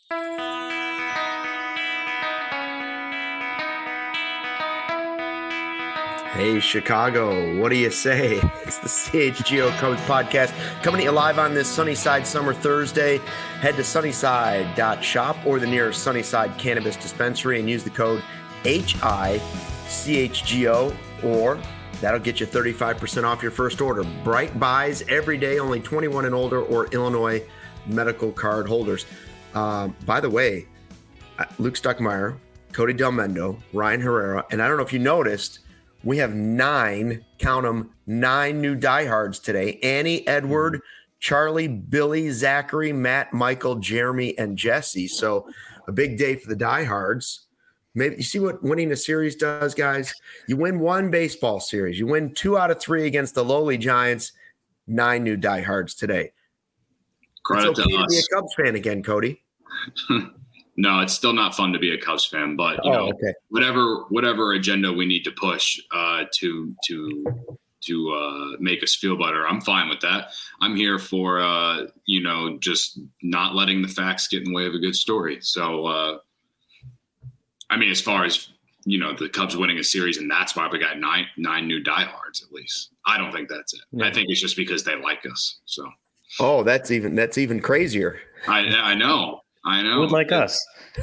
Hey, Chicago, what do you say? It's the CHGO Cubs podcast coming to you live on this Sunnyside Summer Thursday. Head to sunnyside.shop or the nearest Sunnyside Cannabis Dispensary and use the code HICHGO, or that'll get you 35% off your first order. Bright buys every day, only 21 and older or Illinois medical card holders. By the way, Luke Stuckmeyer, Cody Delmendo, Ryan Herrera, and I don't know if you noticed, we have 9 new diehards today. Annie, Edward, Charlie, Billy, Zachary, Matt, Michael, Jeremy, and Jesse. So a big day for the diehards. Maybe you see what winning a series does, guys? You win one baseball series. You win 2 out of 3 against the lowly Giants. 9 new diehards today. Credit it's okay to us. Be a Cubs fan again, Cody. No, it's still not fun to be a Cubs fan, but whatever agenda we need to push to make us feel better, I'm fine with that. I'm here for just not letting the facts get in the way of a good story. So, as far as the Cubs winning a series, and that's why we got nine new diehards at least. I don't think that's it. Yeah. I think it's just because they like us. So. Oh, that's even crazier. I know. Who would like us?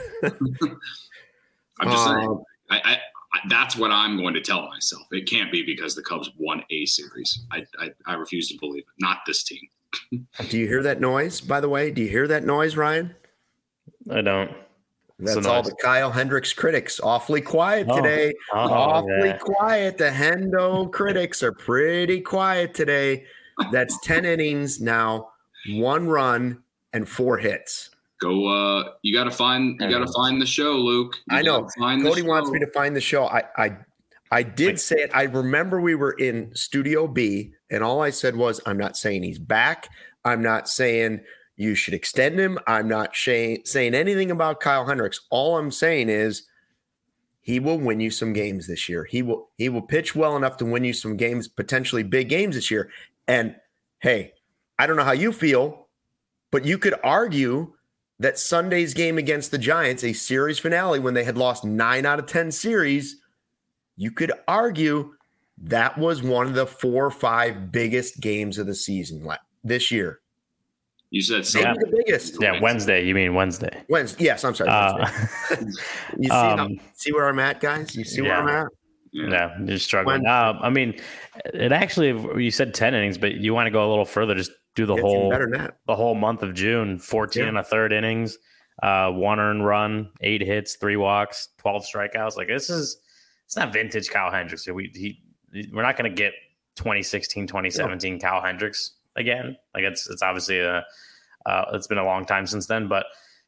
I'm just saying. That's what I'm going to tell myself. It can't be because the Cubs won a series. I refuse to believe it. Not this team. Do you hear that noise, by the way? Do you hear that noise, Ryan? I don't. That's all the Kyle Hendricks critics. Awfully quiet today. Awfully quiet. The Hendo critics are pretty quiet today. That's 10 innings now, 1 run, and 4 hits. Go. You got to find the show, Luke. I know. Cody wants me to find the show. I did say it. I remember we were in Studio B, and all I said was, I'm not saying he's back. I'm not saying you should extend him. I'm not saying anything about Kyle Hendricks. All I'm saying is he will win you some games this year. He will pitch well enough to win you some games, potentially big games this year. And hey, I don't know how you feel, but you could argue that Sunday's game against the Giants, a series finale when they had lost 9 out of 10 series, you could argue that was one of the 4 or 5 biggest games of the season this year. You said maybe the biggest. Yeah, Wednesday. You mean Wednesday? Wednesday. Yes, I'm sorry. You see where I'm at, guys? You see where I'm at? Yeah, you're struggling. It actually, you said 10 innings, but you want to go a little further, just do the whole month of June, 14 and a third innings, 1 earned run, 8 hits, 3 walks, 12 strikeouts. Like it's not vintage Kyle Hendricks. We're not going to get 2016, 2017 Kyle Hendricks again. Like it's obviously it's been a long time since then, but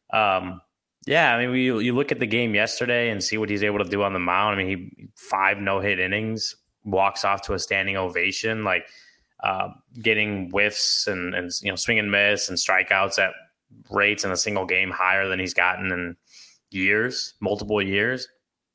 you look at the game yesterday and see what he's able to do on the mound. He 5 no-hit innings, walks off to a standing ovation, like getting whiffs and swing and miss and strikeouts at rates in a single game higher than he's gotten in multiple years.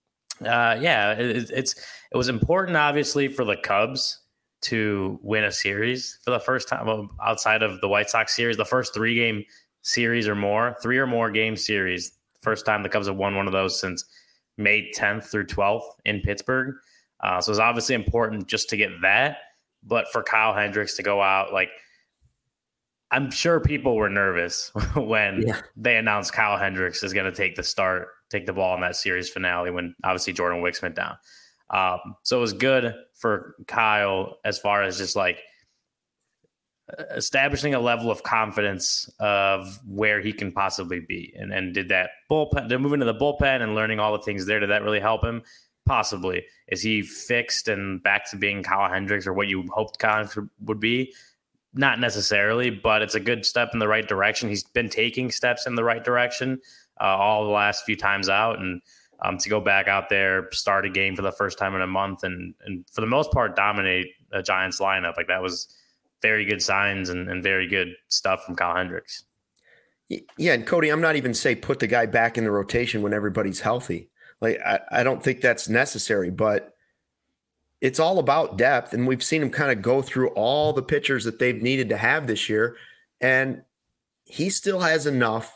It was important, obviously, for the Cubs to win a series for the first time outside of the White Sox series, the first 3-game series or more, 3 or more game series. First time the Cubs have won one of those since May 10th through 12th in Pittsburgh. So it's obviously important just to get that. But for Kyle Hendricks to go out, I'm sure people were nervous when they announced Kyle Hendricks is going to take the ball in that series finale when obviously Jordan Wicks went down. So it was good for Kyle as far as just establishing a level of confidence of where he can possibly be, and did that bullpen. They're moving to the bullpen and learning all the things there. Did that really help him? Possibly. Is he fixed and back to being Kyle Hendricks or what you hoped Kyle Hendricks would be? Not necessarily, but it's a good step in the right direction. He's been taking steps in the right direction all the last few times out, and to go back out there, start a game for the first time in a month, and for the most part dominate a Giants lineup. That was very good signs and very good stuff from Kyle Hendricks. Yeah, and Cody, I'm not even put the guy back in the rotation when everybody's healthy. I don't think that's necessary, but it's all about depth. And we've seen him kind of go through all the pitchers that they've needed to have this year. And he still has enough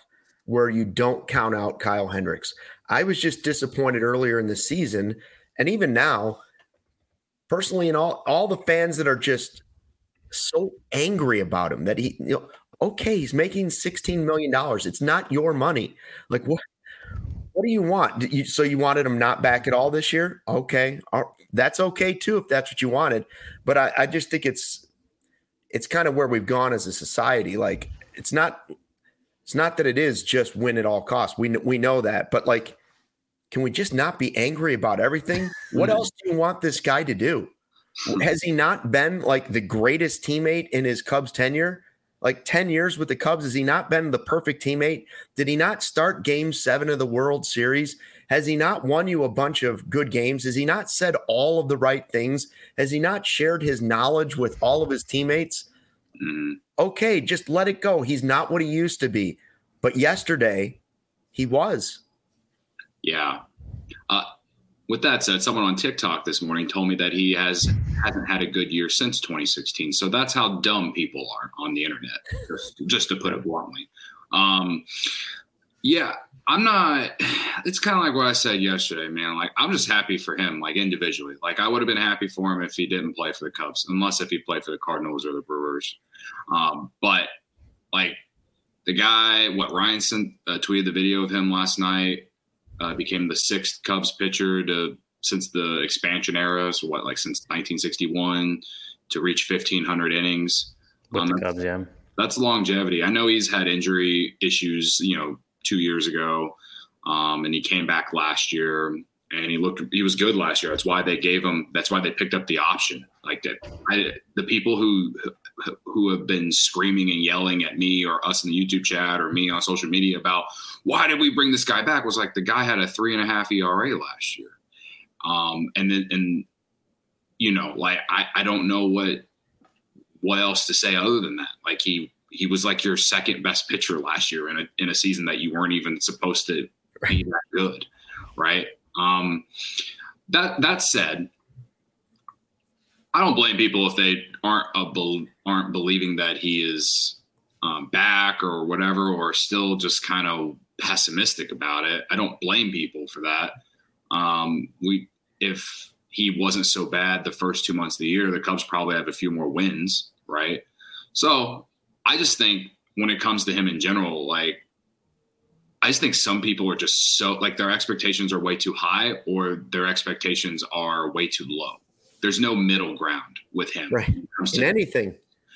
where you don't count out Kyle Hendricks. I was just disappointed earlier in the season, and even now, personally, and all the fans that are just so angry about him that okay, he's making $16 million. It's not your money. Like, what do you want? So you wanted him not back at all this year? Okay. That's okay too, if that's what you wanted. But I just think it's kind of where we've gone as a society. Like, it's not that it is just win at all costs. We know that, but like, can we just not be angry about everything? What else do you want this guy to do? Has he not been like the greatest teammate in his Cubs tenure? Like 10 years with the Cubs, has he not been the perfect teammate? Did he not start Game 7 of the World Series? Has he not won you a bunch of good games? Has he not said all of the right things? Has he not shared his knowledge with all of his teammates? Okay, just let it go. He's not what he used to be. But yesterday, he was. Yeah. With that said, someone on TikTok this morning told me that he hasn't had a good year since 2016. So that's how dumb people are on the internet, just to put it bluntly. Yeah, I'm not – it's kind of like what I said yesterday, man. Like, I'm just happy for him, like, individually. Like, I would have been happy for him if he didn't play for the Cubs, unless if he played for the Cardinals or the Brewers. But, like, the guy, Ryan tweeted the video of him last night. Became the 6th Cubs pitcher since the expansion era. So since 1961 to reach 1,500 innings. With the Cubs, yeah. That's longevity. I know he's had injury issues, 2 years ago. And he came back last year and he was good last year. That's why they picked up the option. Like that. The people who have been screaming and yelling at me or us in the YouTube chat or me on social media about why did we bring this guy back was like the guy had a 3.5 ERA last year. I don't know what else to say other than that. Like he was like your second best pitcher last year in a season that you weren't even supposed to be that good. Right. That said, I don't blame people if they aren't believing that he is back or whatever, or still just kind of pessimistic about it. I don't blame people for that. If he wasn't so bad the first 2 months of the year, the Cubs probably have a few more wins, right? So I just think when it comes to him in general, like, I just think some people are just so like their expectations are way too high or their expectations are way too low. There's no middle ground with him. Right. In anything.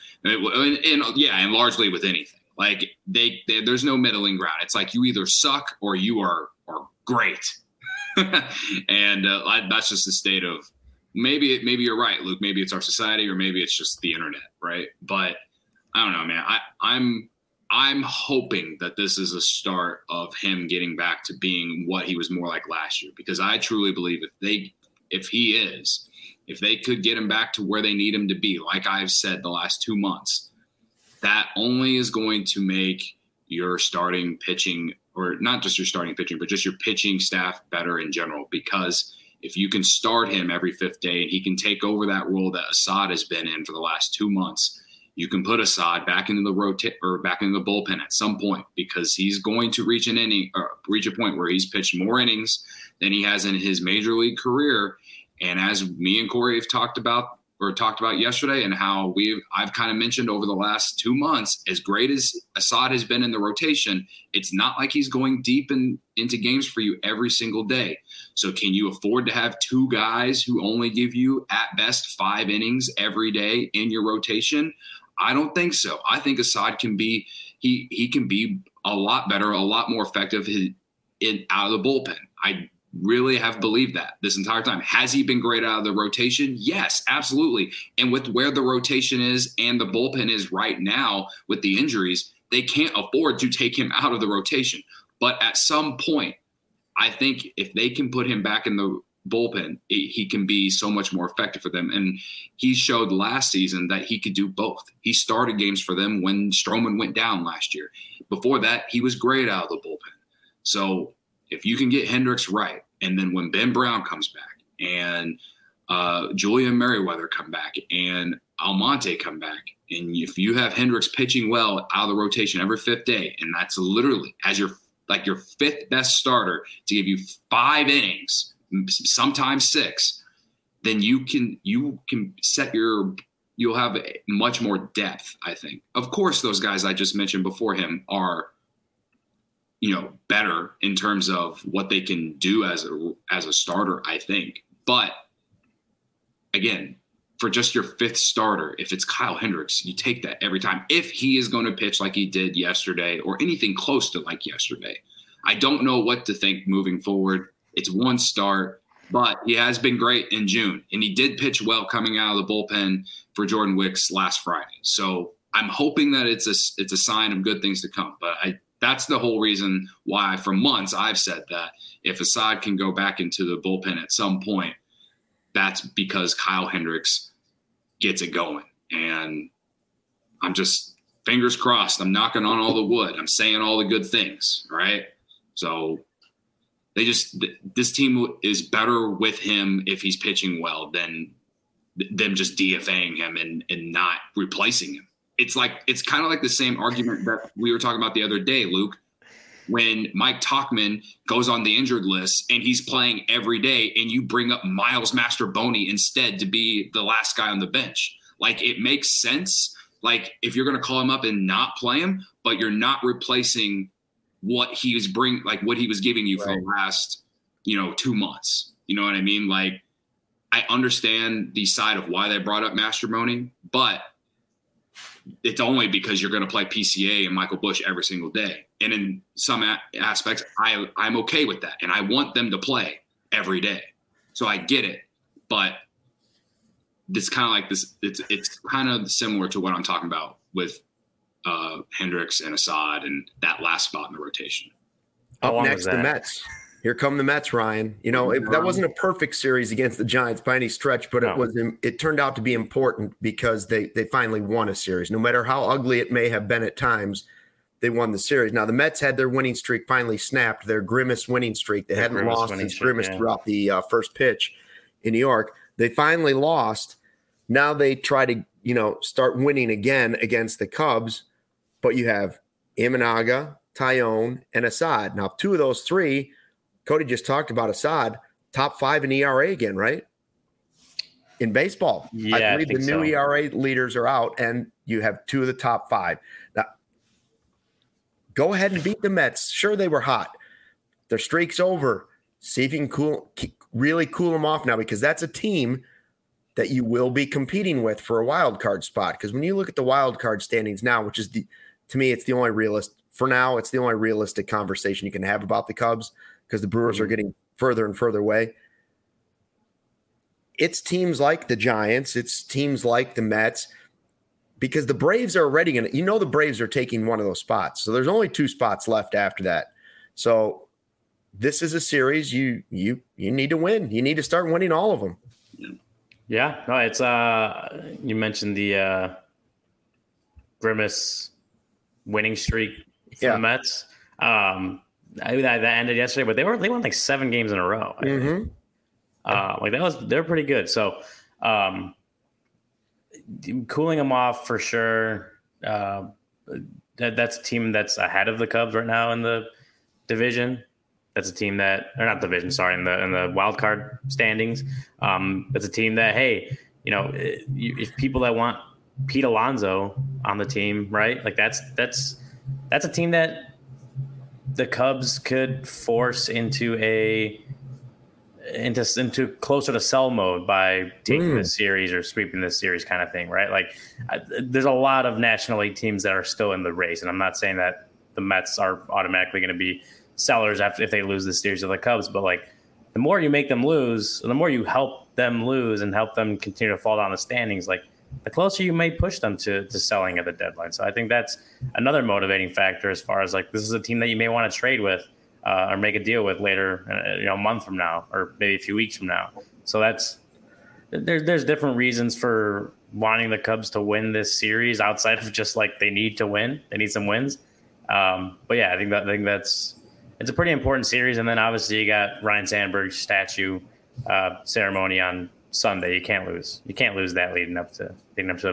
And largely with anything. Like there's no middling ground. It's like you either suck or you are great. And that's just the state of maybe you're right, Luke. Maybe it's our society or maybe it's just the internet, right? But I don't know, man. I'm hoping that this is a start of him getting back to being what he was more like last year, because I truly believe if they could get him back to where they need him to be, like I've said the last 2 months, that only is going to make your starting pitching, or not just your starting pitching, but just your pitching staff better in general. Because if you can start him every 5th day and he can take over that role that Assad has been in for the last 2 months, you can put Assad back into the back into the bullpen at some point, because he's going to reach a point where he's pitched more innings than he has in his major league career. And as me and Corey have talked about yesterday, and how I've kind of mentioned over the last 2 months, as great as Assad has been in the rotation, it's not like he's going deep into games for you every single day. So can you afford to have 2 guys who only give you at best 5 innings every day in your rotation? I don't think so. I think Assad can be he can be a lot better, a lot more effective out of the bullpen. I really have believed that this entire time. Has he been great out of the rotation? Yes, absolutely. And with where the rotation is and the bullpen is right now with the injuries, they can't afford to take him out of the rotation. But at some point, I think if they can put him back in the bullpen, he can be so much more effective for them. And he showed last season that he could do both. He started games for them when Stroman went down last year. Before that, he was great out of the bullpen. So if you can get Hendricks right, and then when Ben Brown comes back and Julian Merriweather come back and Almonte come back, and if you have Hendricks pitching well out of the rotation every fifth day, and that's literally as your fifth best starter to give you 5 innings, sometimes 6, then you can set you'll have much more depth, I think. Of course, those guys I just mentioned before him are, better in terms of what they can do as a starter, I think. But again, for just your 5th starter, if it's Kyle Hendricks, you take that every time. If he is going to pitch like he did yesterday or anything close to like yesterday, I don't know what to think moving forward. It's one start, but he has been great in June, and he did pitch well coming out of the bullpen for Jordan Wicks last Friday. So I'm hoping that it's a sign of good things to come. But that's the whole reason why for months I've said that if Assad can go back into the bullpen at some point, that's because Kyle Hendricks gets it going. And I'm just fingers crossed. I'm knocking on all the wood. I'm saying all the good things, right? So this team is better with him if he's pitching well than them just DFAing him and not replacing him. It's kind of like the same argument that we were talking about the other day, Luke, when Mike Tauchman goes on the injured list and he's playing every day and you bring up Miles Mastroboni instead to be the last guy on the bench. Like, it makes sense. Like, if you're going to call him up and not play him, but you're not replacing what he was what he was giving you for the last, 2 months. You know what I mean? Like, I understand the side of why they brought up Mastroboni, but it's only because you're going to play PCA and Michael Busch every single day. And in some aspects, I'm okay with that. And I want them to play every day. So I get it. But it's kind of like this. It's kind of similar to what I'm talking about with Hendricks and Assad and that last spot in the rotation. Up next, the Mets. Here come the Mets, Ryan. That wasn't a perfect series against the Giants by any stretch, but it turned out to be important because they finally won a series. No matter how ugly it may have been at times, they won the series. Now, the Mets had their winning streak finally snapped, their grimmest winning streak. They hadn't lost since grimmest throughout the first pitch in New York. They finally lost. Now they try to, start winning again against the Cubs, but you have Imanaga, Taillon, and Assad. Now, 2 of those 3, Cody just talked about Assad, top 5 in ERA again, right? In baseball. Yeah, I believe the new ERA leaders are out, and you have 2 of the top 5. Now, go ahead and beat the Mets. Sure, they were hot. Their streak's over. See if you can really cool them off now, because that's a team that you will be competing with for a wild card spot. Because when you look at the wild card standings now, which is to me, it's the only it's the only realistic conversation you can have about the Cubs, because the Brewers are getting further and further away. It's teams like the Giants. It's teams like the Mets, because the Braves are already going to, the Braves are taking one of those spots. So there's only 2 spots left after that. So this is a series you need to win. You need to start winning all of them. Yeah, no, it's you mentioned the grimace winning streak for the Mets. That ended yesterday, but they won like 7 games in a row. Mm-hmm. They're pretty good. So cooling them off for sure. That's a team that's ahead of the Cubs right now in the division. That's a team that, or not division, sorry, in the wild card standings. That's a team that, hey, if people that want Pete Alonso on the team, right? Like that's a team that the Cubs could force into closer to sell mode by taking this series or sweeping this series kind of thing, right? Like there's a lot of National League teams that are still in the race, and I'm not saying that the Mets are automatically going to be sellers if they lose this series to the Cubs, but like the more you make them lose, the more you help them lose and help them continue to fall down the standings, like the closer you may push them to selling at the deadline. So I think that's another motivating factor as far as like this is a team that you may want to trade with or make a deal with later, a month from now or maybe a few weeks from now. So there's different reasons for wanting the Cubs to win this series outside of just like they need to win. They need some wins. But yeah, I think it's a pretty important series. And then obviously you got Ryan Sandberg's statue ceremony on Sunday. You can't lose. You can't lose that leading up to a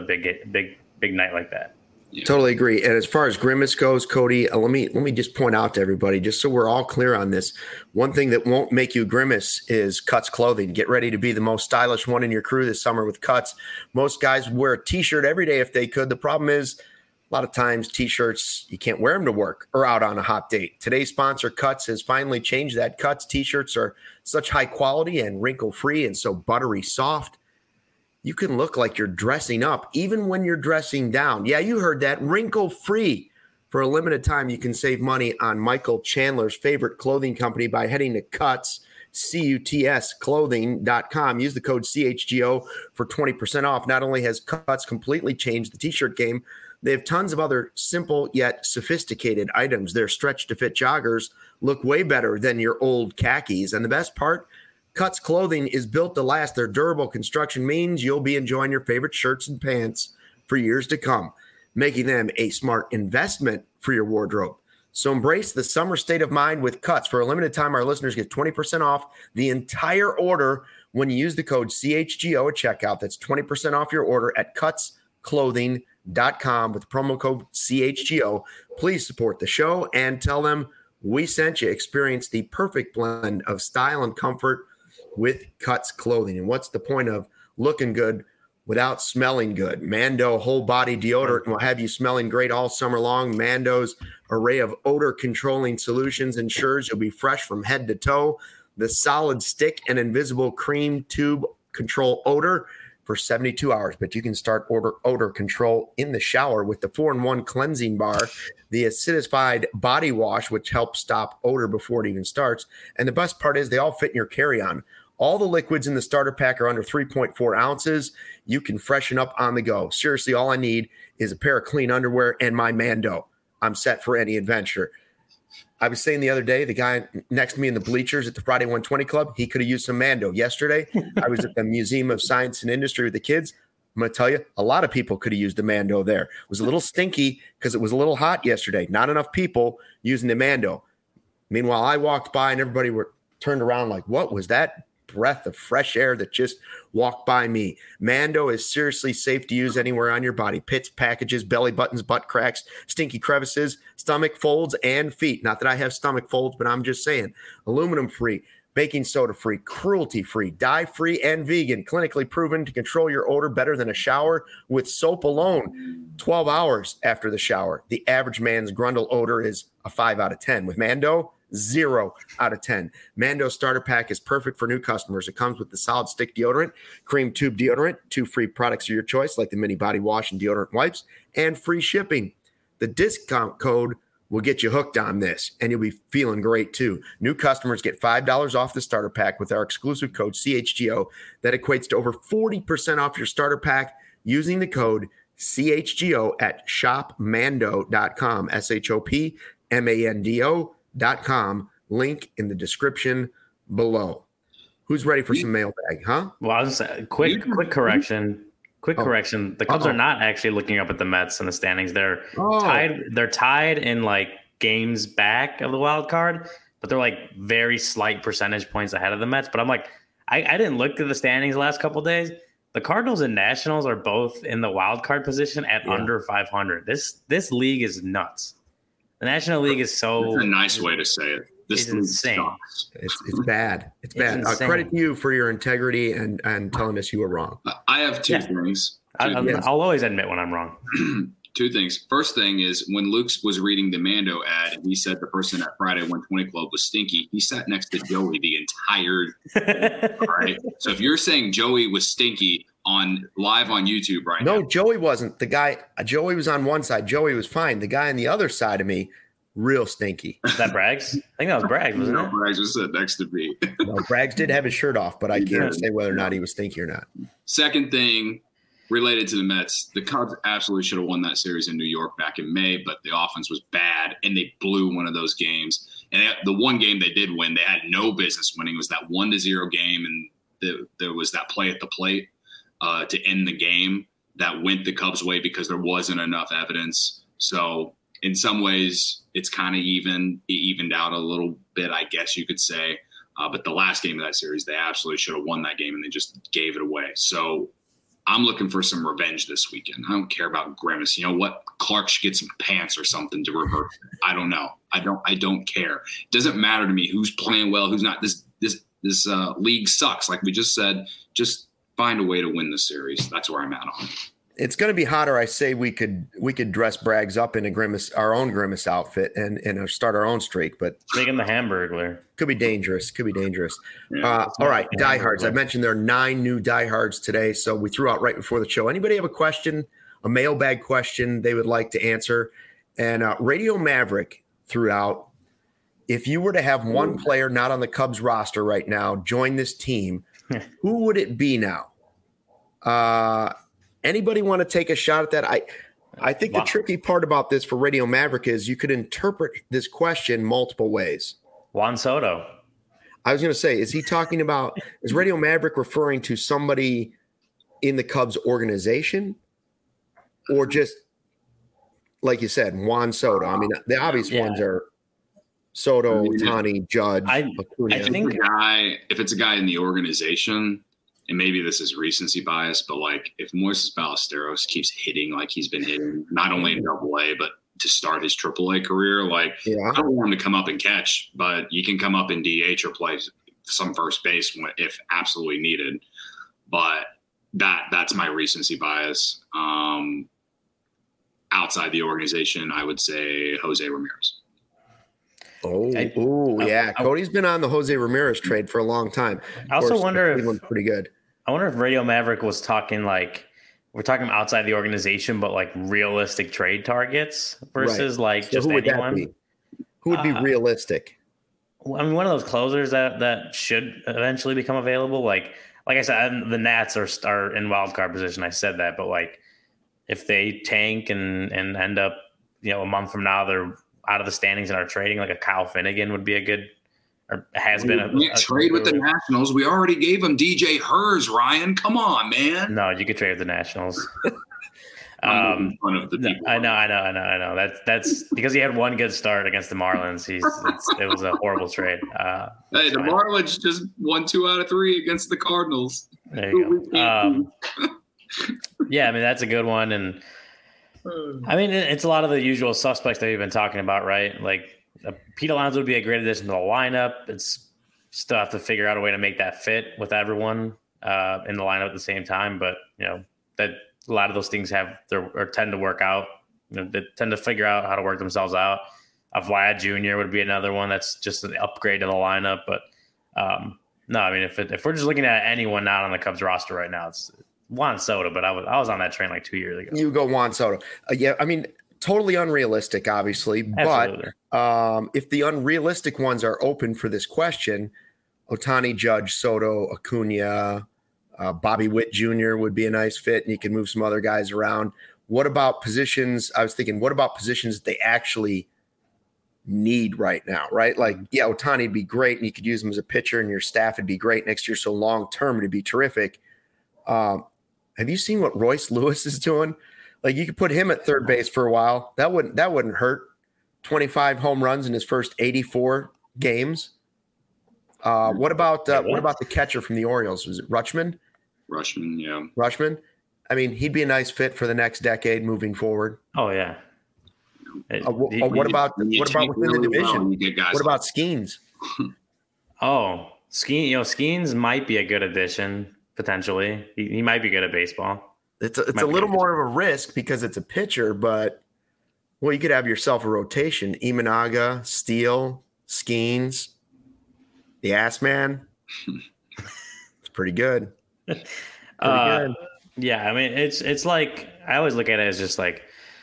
big night like that. Yeah. Totally agree. And as far as Grimace goes, Cody, let me just point out to everybody, just so we're all clear on this, one thing that won't make you grimace is Cuts clothing. Get ready to be the most stylish one in your crew this summer with Cuts. Most guys would wear a T-shirt every day if they could. The problem is a lot of times T-shirts, you can't wear them to work or out on a hot date. Today's sponsor, Cuts, has finally changed that. Cuts T-shirts are such high quality and wrinkle-free and so buttery soft. You can look like you're dressing up even when you're dressing down. Yeah, you heard that. Wrinkle-free. For a limited time, you can save money on Michael Chandler's favorite clothing company by heading to Cuts, C-U-T-S, clothing.com. Use the code CHGO for 20% off. Not only has Cuts completely changed the T-shirt game, they have tons of other simple yet sophisticated items. Their stretch-to-fit joggers look way better than your old khakis. And the best part, Cuts clothing is built to last. Their durable construction means you'll be enjoying your favorite shirts and pants for years to come, making them a smart investment for your wardrobe. So embrace the summer state of mind with Cuts. For a limited time, our listeners get 20% off the entire order when you use the code CHGO at checkout. That's 20% off your order at cutsclothing.com with the promo code CHGO. Please support the show and tell them we sent you. Experience the perfect blend of style and comfort with Cuts clothing. And what's the point of looking good without smelling good? Mando whole body deodorant will have you smelling great all summer long. Mando's array of odor controlling solutions ensures you'll be fresh from head to toe. The solid stick and invisible cream tube control odor for 72 hours, but you can start odor control in the shower with the 4-in-1 cleansing bar, the acidified body wash, which helps stop odor before it even starts. And the best part is they all fit in your carry-on. All the liquids in the starter pack are under 3.4 ounces. You can freshen up on the go. Seriously, all I need is a pair of clean underwear and my Mando. I'm set for any adventure. I was saying the other day, the guy next to me in the bleachers at the Friday 120 Club, he could have used some Mando. Yesterday, I was at the Museum of Science and Industry with the kids. I'm going to tell you, a lot of people could have used the Mando there. It was a little stinky because it was a little hot yesterday. Not enough people using the Mando. Meanwhile, I walked by and everybody were turned around like, what was that breath of fresh air that just walked by me? Mando is seriously safe to use anywhere on your body. Pits, packages, belly buttons, butt cracks, stinky crevices, stomach folds, and feet. Not that I have stomach folds, but I'm just saying. Aluminum free, baking soda free, cruelty free, dye free, and vegan. Clinically proven to control your odor better than a shower with soap alone. 12 hours after the shower. The average man's grundle odor is a 5 out of 10. With Mando, 0 out of 10. Mando starter pack is perfect for new customers. It comes with the solid stick deodorant, cream tube deodorant, 2 free products of your choice like the mini body wash and deodorant wipes, and free shipping. The discount code will get you hooked on this, and you'll be feeling great too. New customers get $5 off the starter pack with our exclusive code CHGO. That equates to over 40% off your starter pack using the code CHGO at shopmando.com, SHOPMANDO.com. Link in the description below. Who's ready for some mailbag, huh? Well, I was quick correction. Quick correction. The Cubs are not actually looking up at the Mets in the standings. They're tied. They're tied in like games back of the wild card, but they're like very slight percentage points ahead of the Mets. But I'm like, I didn't look at the standings the last couple of days. The Cardinals and Nationals are both in the wild card position at under 500. This league is nuts. The National League is so. That's a nice way to say it. This is insane. It's bad. It's bad. Credit to you for your integrity and telling us you were wrong. I have two things. I'll always admit when I'm wrong. 2 things. First thing is when Luke was reading the Mando ad and he said the person at Friday 120 Club was stinky, he sat next to Joey the entire all right. So if you're saying Joey was stinky live on YouTube right now. No, Joey wasn't. The guy, Joey was on one side. Joey was fine. The guy on the other side of me, real stinky. Is that Braggs? I think that was Braggs, wasn't it? Braggs was sitting next to me. No, Braggs did have his shirt off, but I can't say whether or not he was stinky or not. Second thing, related to the Mets, the Cubs absolutely should have won that series in New York back in May, but the offense was bad, and they blew one of those games. And the one game they did win, they had no business winning. It was that 1-0 game, and there was that play at the plate to end the game that went the Cubs' way because there wasn't enough evidence. So in some ways, it's kind of evened out a little bit, I guess you could say. But the last game of that series, they absolutely should have won that game, and they just gave it away. So I'm looking for some revenge this weekend. I don't care about Grimace. You know what? Clark should get some pants or something to reverse it. I don't know. I don't care. It doesn't matter to me who's playing well, who's not. This league sucks. Like we just said, just find a way to win the series. That's where I'm at on it. It's going to be hotter. I say we could dress Braggs up in our own Grimace outfit and start our own streak. But make him the Hamburglar. Could be dangerous. Yeah, all right, diehards. I mentioned there are 9 new diehards today, so we threw out right before the show. Anybody have a question, a mailbag question they would like to answer? And Radio Maverick threw out, if you were to have one player not on the Cubs roster right now join this team, who would it be now? Anybody want to take a shot at that? I think the tricky part about this for Radio Maverick is you could interpret this question multiple ways. Juan Soto. I was going to say, is Radio Maverick referring to somebody in the Cubs organization, or just, like you said, Juan Soto? I mean, the obvious ones are Soto, Ohtani, Judge. I think if it's a guy in the organization, and maybe this is recency bias, but like if Moises Ballesteros keeps hitting like he's been hitting, not only in AA, but to start his AAA career, I don't want him to come up and catch, but you can come up in DH or play some first base if absolutely needed. But that's my recency bias. Outside the organization, I would say Jose Ramirez. Cody's been on the Jose Ramirez trade for a long time. I also wonder if pretty good. I wonder if Radio Maverick was talking we're talking outside the organization, but like realistic trade targets versus just who would anyone. That be? Who would be realistic? I mean, one of those closers that should eventually become available. Like I said, the Nats are in wild card position. I said that, but if they tank and end up, a month from now they're out of the standings and are trading, like a Kyle Finnegan would be a good, or has been a trade with the Nationals. We already gave him DJ Hers, Ryan. Come on, man. No, you could trade with the Nationals. I know. That's because he had one good start against the Marlins. It was a horrible trade. Hey, the Marlins just won 2 out of 3 against the Cardinals. There you go. Yeah, I mean, that's a good one. And I mean, it's a lot of the usual suspects that we've been talking about, right? Like Pete Alonso would be a great addition to the lineup. It's still have to figure out a way to make that fit with everyone in the lineup at the same time. But, that a lot of those things tend to work out. They tend to figure out how to work themselves out. Vlad Jr. would be another one that's just an upgrade to the lineup. But no, I mean, if we're just looking at anyone not on the Cubs roster right now, it's Juan Soto. But I was on that train like 2 years ago. You go Juan Soto. I mean, totally unrealistic, obviously. Absolutely. But if the unrealistic ones are open for this question, Ohtani, Judge, Soto, Acuna, Bobby Witt Jr. would be a nice fit, and you can move some other guys around. What about positions? I was thinking, what about positions that they actually need right now, right? Like, Ohtani would be great, and you could use him as a pitcher, and your staff would be great next year. So long-term, it'd be terrific. Have you seen what Royce Lewis is doing? Like, you could put him at third base for a while. That wouldn't hurt. 25 home runs in his first 84 games. What about the catcher from the Orioles? Was it Rutschman? Rutschman, yeah. Rutschman. I mean, he'd be a nice fit for the next decade moving forward. Oh yeah. What about within the division? What about Skeens? Skeens might be a good addition potentially. He might be good at baseball. It's a little more of a risk because it's a pitcher, but you could have yourself a rotation: Imanaga, Steele, Skeens. The Ass Man. It's pretty good. Good. Yeah, I mean, it's like I always look at it as just like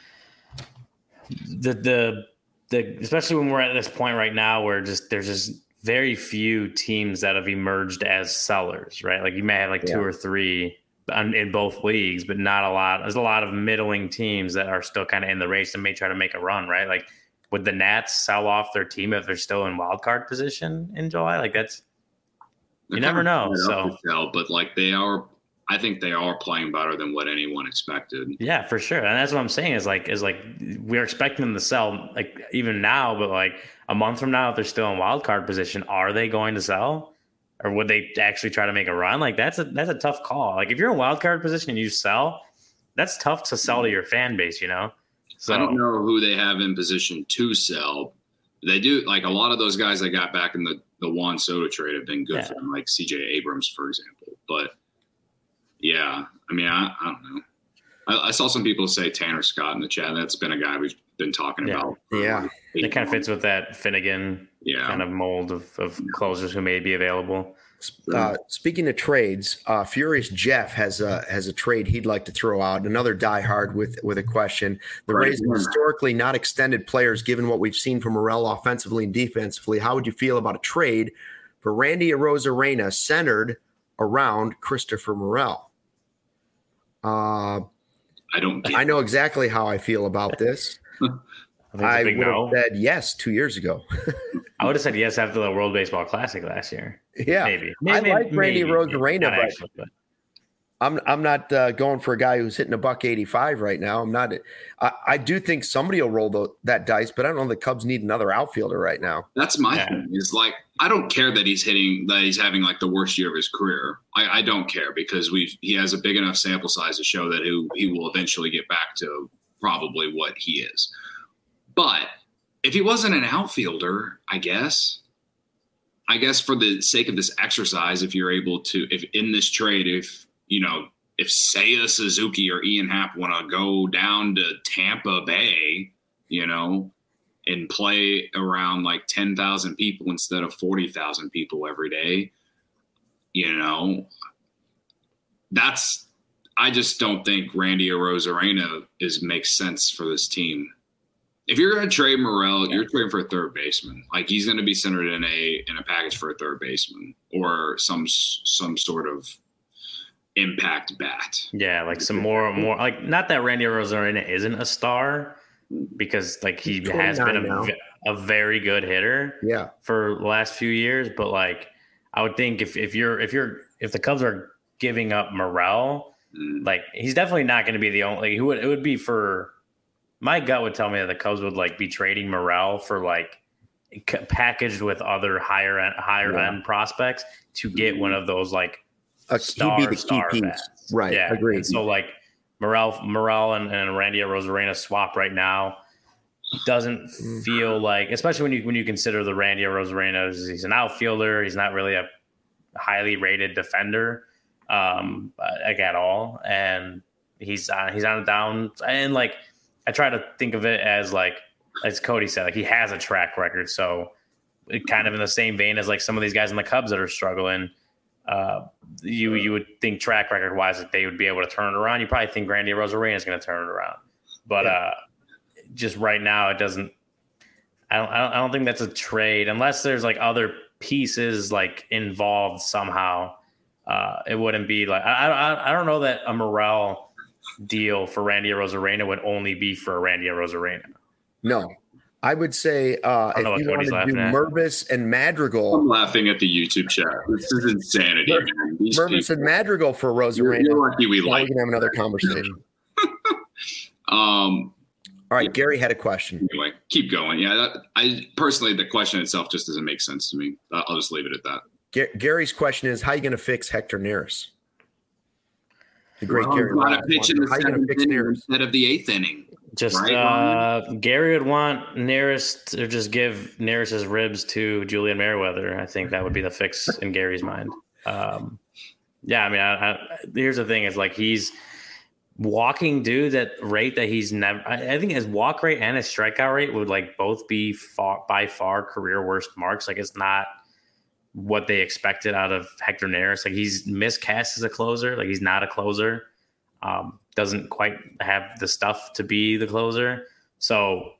the especially when we're at this point right now where there's just very few teams that have emerged as sellers, right? Like you may have like 2 or 3 in both leagues, but not a lot. There's a lot of middling teams that are still kind of in the race and may try to make a run, right? Like, would the Nats sell off their team if they're still in wild card position in July? Like you never know. So, but like they are, I think they are playing better than what anyone expected. Yeah, for sure. And that's what I'm saying is like we're expecting them to sell like even now, but like a month from now, if they're still in wild card position, are they going to sell? Or would they actually try to make a run? Like that's a tough call. Like if you're in wild card position and you sell, that's tough to sell to your fan base, you know? So I don't know who they have in position to sell. They do, like a lot of those guys that got back in the Juan Soto trade have been good for them, like CJ Abrams, for example. But yeah, I mean, I don't know. I saw some people say Tanner Scott in the chat. That's been a guy we've been talking about. Yeah. It kind of fits with that Finnegan kind of mold of closers who may be available. Speaking of trades, Furious Jeff has a trade he'd like to throw out. Another diehard with a question. The Rays have historically not extended players given what we've seen from Morel offensively and defensively. How would you feel about a trade for Randy Arozarena centered around Christopher Morel? I know exactly how I feel about this. I would have said yes 2 years ago. I would have said yes after the World Baseball Classic last year. Yeah, maybe I like Randy Arozarena, but I'm not going for a guy who's hitting $185 right now. I'm not. I do think somebody will roll that dice, but I don't know the Cubs need another outfielder right now. That's my thing. Is like I don't care that he's having like the worst year of his career. I don't care because he has a big enough sample size to show that he will eventually get back to probably what he is. But if he wasn't an outfielder, I guess for the sake of this exercise, if you're able to, if in this trade, if Seiya Suzuki or Ian Happ want to go down to Tampa Bay, and play around like 10,000 people instead of 40,000 people every day, I just don't think Randy Arozarena makes sense for this team. If you're going to trade Morel, you're trading for a third baseman. Like he's going to be centered in a package for a third baseman or some sort of impact bat. Yeah, like some more like not that Randy Arozarena isn't a star because like he has been a very good hitter for the last few years, but like I would think if the Cubs are giving up Morel, like he's definitely not going to be the only it would be for. My gut would tell me that the Cubs would like be trading Morel for like packaged with other higher end prospects to get one of those like star bats. Right. Yeah. Agreed. And so like Morel and Randy Arozarena swap right now doesn't feel like, especially when you consider the Randy Arozarena, he's an outfielder. He's not really a highly rated defender like at all. And he's on the down and like, I try to think of it as like, as Cody said, like he has a track record. So it kind of in the same vein as like some of these guys in the Cubs that are struggling, you would think track record wise that they would be able to turn it around. You probably think Randy Arozarena is going to turn it around, but just right now it doesn't. I don't think that's a trade unless there's like other pieces like involved somehow. It wouldn't be like I don't know that a Morel deal for Randy Arozarena would only be for Randy Arozarena. No, I would say if you want to do Mervis and Madrigal. I'm laughing at the YouTube chat. This is insanity. Mervis and Madrigal for Arozarena. You're lucky we can have another conversation. All right, Gary had a question. Anyway, keep going. Yeah, I personally, the question itself just doesn't make sense to me. I'll just leave it at that. Gary's question is, how are you going to fix Hector Neris? The great Gary. To pitch in the 7th inning instead of the 8th inning. Just right, Gary would want Neris to just give Neris's ribs to Julian Merriweather. I think that would be the fix in Gary's mind. Yeah, I mean, here's the thing: is like he's walking dudes at rate that he's never. I think his walk rate and his strikeout rate would like both be by far career worst marks. Like it's not what they expected out of Hector Neris. Like he's miscast as a closer. Like he's not a closer. Doesn't quite have the stuff to be the closer. So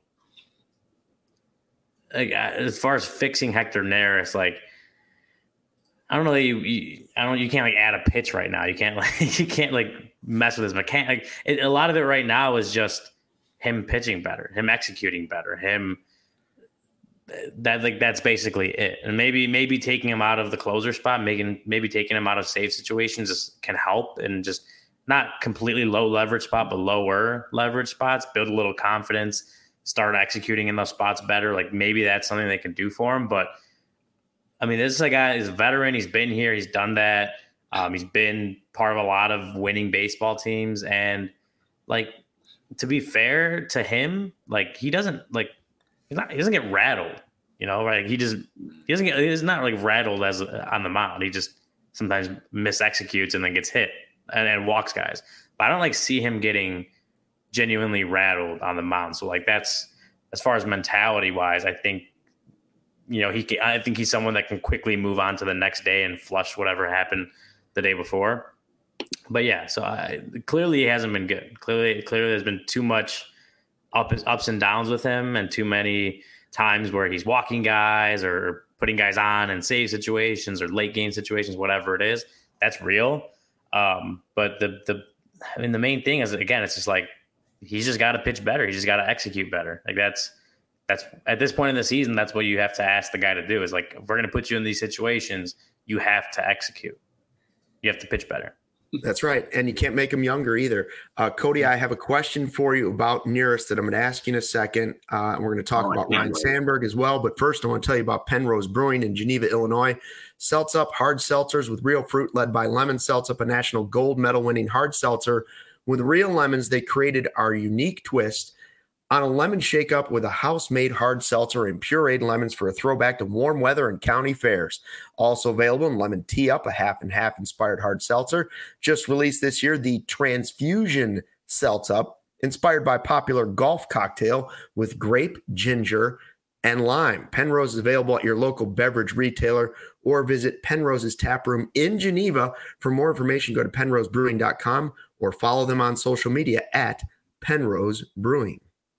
like, as far as fixing Hector Neris, like I don't know that you can't like add a pitch right now. You can't mess with his mechanic. A lot of it right now is just him pitching better, him executing better, him that's basically it. And maybe taking him out of the closer spot, maybe taking him out of save situations can help, and just not completely low leverage spot, but lower leverage spots, build a little confidence, start executing in those spots better. Like maybe that's something they can do for him. But I mean, this is a guy, he's a veteran. He's been here. He's done that. He's been part of a lot of winning baseball teams. And like, to be fair to him, like he doesn't get rattled, right? He's not like rattled as on the mound. He just sometimes misexecutes and then gets hit and walks guys. But I don't see him getting genuinely rattled on the mound. So that's, as far as mentality wise, I think, I think he's someone that can quickly move on to the next day and flush whatever happened the day before. But yeah, so clearly he hasn't been good. Clearly there's been too much ups and downs with him, and too many times where he's walking guys or putting guys on in save situations or late game situations, whatever it is. That's real. But the main thing is, again, it's just he's just got to pitch better. He's just got to execute better. That's at this point in the season, that's what you have to ask the guy to do is if we're going to put you in these situations, you have to execute. You have to pitch better. That's right. And you can't make him younger either. Cody, I have a question for you about Nearest that I'm going to ask you in a second. We're going to talk about Ryne Sandberg as well. But first, I want to tell you about Penrose Brewing in Geneva, Illinois. Seltz Up hard seltzers with real fruit, led by Lemon Seltz Up, a national gold medal winning hard seltzer. With real lemons, they created our unique twist on a lemon shake-up with a house-made hard seltzer and pureed lemons for a throwback to warm weather and county fairs. Also available in Lemon Tea Up, a half-and-half inspired hard seltzer. Just released this year, the Transfusion Seltz Up, inspired by popular golf cocktail with grape, ginger, and lime. Penrose is available at your local beverage retailer or visit Penrose's tap room in Geneva. For more information, go to penrosebrewing.com or follow them on social media at Penrose Brewing.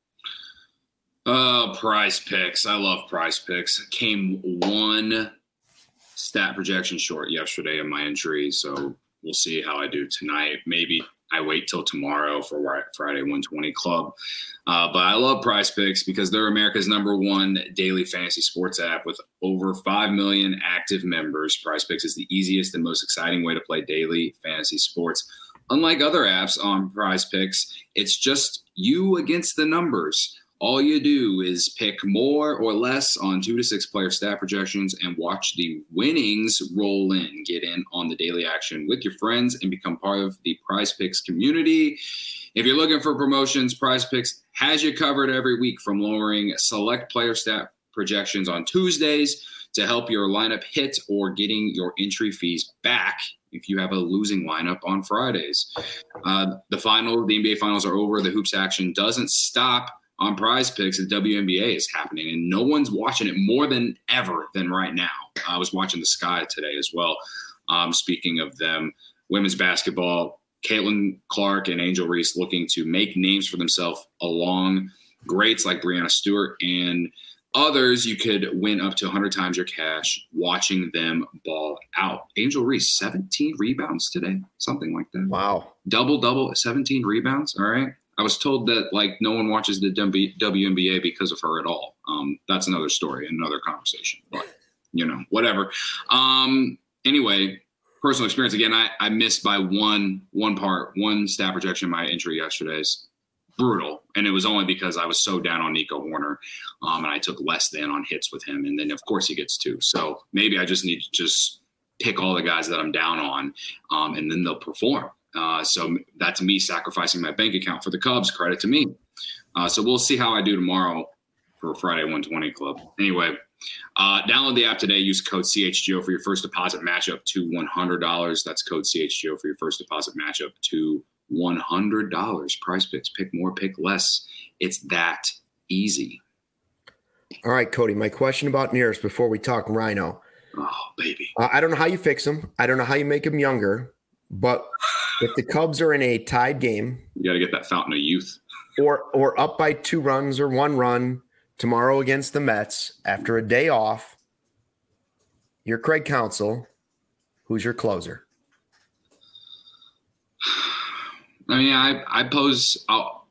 Prize Picks. I love Prize Picks. Came one stat projection short yesterday in my entry, so we'll see how I do tonight. Maybe I wait till tomorrow for Friday 120 Club. But I love Prize Picks because they're America's #1 daily fantasy sports app with over 5 million active members. Prize Picks is the easiest and most exciting way to play daily fantasy sports. Unlike other apps on Prize Picks, it's just you against the numbers. All you do is pick more or less on 2 to 6 player stat projections and watch the winnings roll in. Get in on the daily action with your friends and become part of the Prize Picks community. If you're looking for promotions, Prize Picks has you covered every week, from lowering select player stat projections on Tuesdays to help your lineup hit, or getting your entry fees back if you have a losing lineup on Fridays. The NBA finals are over. The hoops action doesn't stop. On Prize Picks, the WNBA is happening, and no one's watching it more than ever than right now. I was watching the Sky today as well. Speaking of them, women's basketball, Caitlin Clark and Angel Reese looking to make names for themselves along greats like Breanna Stewart and others. You could win up to 100 times your cash watching them ball out. Angel Reese, 17 rebounds today, something like that. Wow. Double, 17 rebounds. All right. I was told that no one watches the WNBA because of her at all. That's another story, another conversation, but whatever. Anyway, personal experience. Again, I missed by one stat projection in my entry yesterday's. Brutal. And it was only because I was so down on Nico Horner, and I took less than on hits with him. And then of course he gets 2. So maybe I just need to pick all the guys that I'm down on, and then they'll perform. So that's me sacrificing my bank account for the Cubs. Credit to me. So we'll see how I do tomorrow for Friday 120 Club. Anyway, download the app today. Use code CHGO for your first deposit matchup to $100. That's code CHGO for your first deposit matchup to $100. Prize Picks. Pick more, pick less. It's that easy. All right, Cody, my question about Nearest before we talk Rhino. Oh, baby. I don't know how you fix him. I don't know how you make him younger. But if the Cubs are in a tied game, you got to get that fountain of youth, or up by 2 runs or 1 run tomorrow against the Mets after a day off, you're Craig Counsell. Who's your closer? I mean, I pose.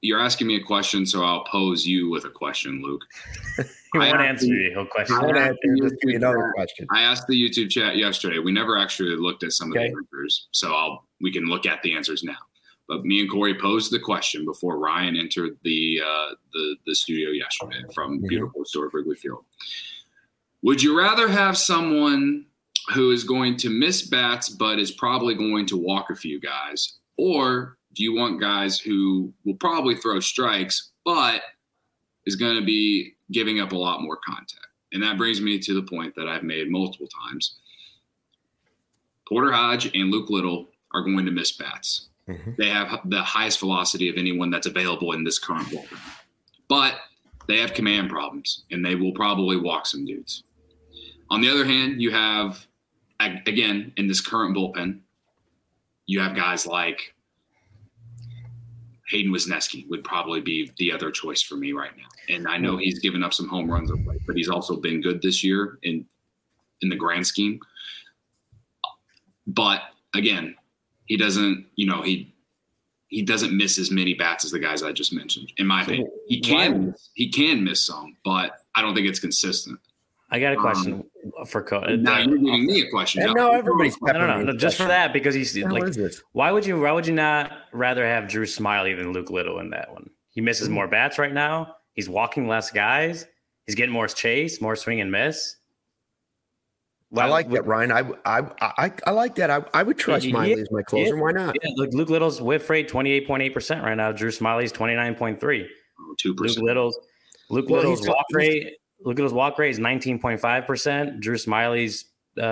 you're asking me a question, so I'll pose you with a question, Luke. He won't answer you. He'll question. Another question. I asked the YouTube chat yesterday. We never actually looked at some of the answers, so we can look at the answers now. But me and Corey posed the question before Ryan entered the studio yesterday from beautiful historic Wrigley Field. Would you rather have someone who is going to miss bats but is probably going to walk a few guys, or do you want guys who will probably throw strikes but is going to be giving up a lot more contact? And that brings me to the point that I've made multiple times. Porter Hodge and Luke Little are going to miss bats. They have the highest velocity of anyone that's available in this current bullpen. But they have command problems, and they will probably walk some dudes. On the other hand, you have, again, in this current bullpen, you have guys like Hayden Wesneski would probably be the other choice for me right now. And I know he's given up some home runs of late, but he's also been good this year in the grand scheme. But, again, he doesn't, he doesn't miss as many bats as the guys I just mentioned. In my opinion, he can miss some, but I don't think it's consistent. I got a question for Coach. Now you're giving me a question. And now everybody's no, just for that, because he's like, why would you not rather have Drew Smyly than Luke Little in that one? He misses more bats right now. He's walking less guys. He's getting more chase, more swing and miss. I like that, Ryan. I like that. I would trust Smyly as my closer. Why not? Yeah, look, Luke Little's whiff rate 28.8% right now. Drew Smyly's 29.3. 2%. Luke Little's walk rate. Luke Little's walk rate is 19.5%. Drew Smyly's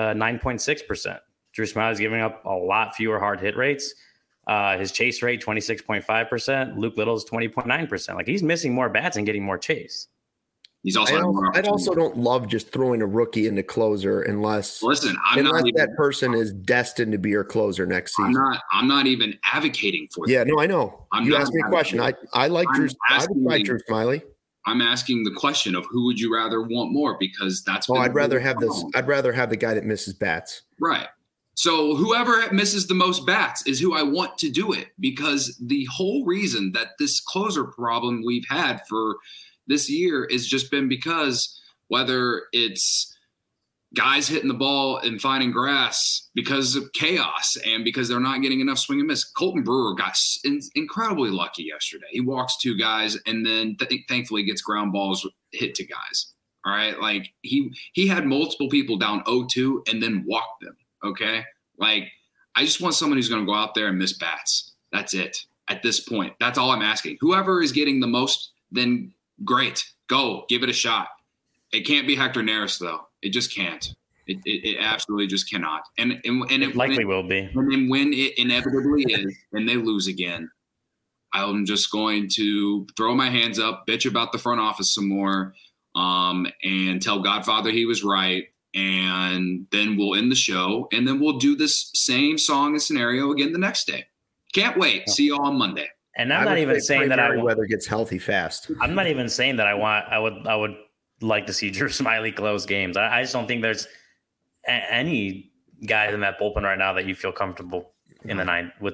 9.6%. Drew Smyly's giving up a lot fewer hard hit rates. His chase rate 26.5%. Luke Little's 20.9%. Like, he's missing more bats and getting more chase. He's also. I also don't love just throwing a rookie into closer unless that person is destined to be your closer next season. I'm not even advocating for that. Yeah, no, I know. You asked me a question. I like Drew. I would like Drew Smyly. I'm asking the question of who would you rather want more, because that's. I'd rather have this. I'd rather have the guy that misses bats. Right. So whoever misses the most bats is who I want to do it, because the whole reason that this closer problem we've had for this year has just been because whether it's guys hitting the ball and finding grass because of chaos and because they're not getting enough swing and miss. Colton Brewer got incredibly lucky yesterday. He walks two guys and then thankfully gets ground balls hit to guys. All right. Like he had multiple people down 0-2 and then walked them. Okay. Like, I just want someone who's going to go out there and miss bats. That's it at this point. That's all I'm asking. Whoever is getting the most, then great. Go give it a shot. It can't be Hector Neris though. It just can't. It absolutely just cannot. And it likely will be. And when it inevitably is, and they lose again, I'm just going to throw my hands up, bitch about the front office some more, and tell Godfather he was right. And then we'll end the show, and then we'll do this same song and scenario again the next day. Can't wait. See you all on Monday. And I'm not even saying that weather gets healthy fast. I'm not even saying that I would like to see Drew Smyly close games. I just don't think there's any guys in that bullpen right now that you feel comfortable in the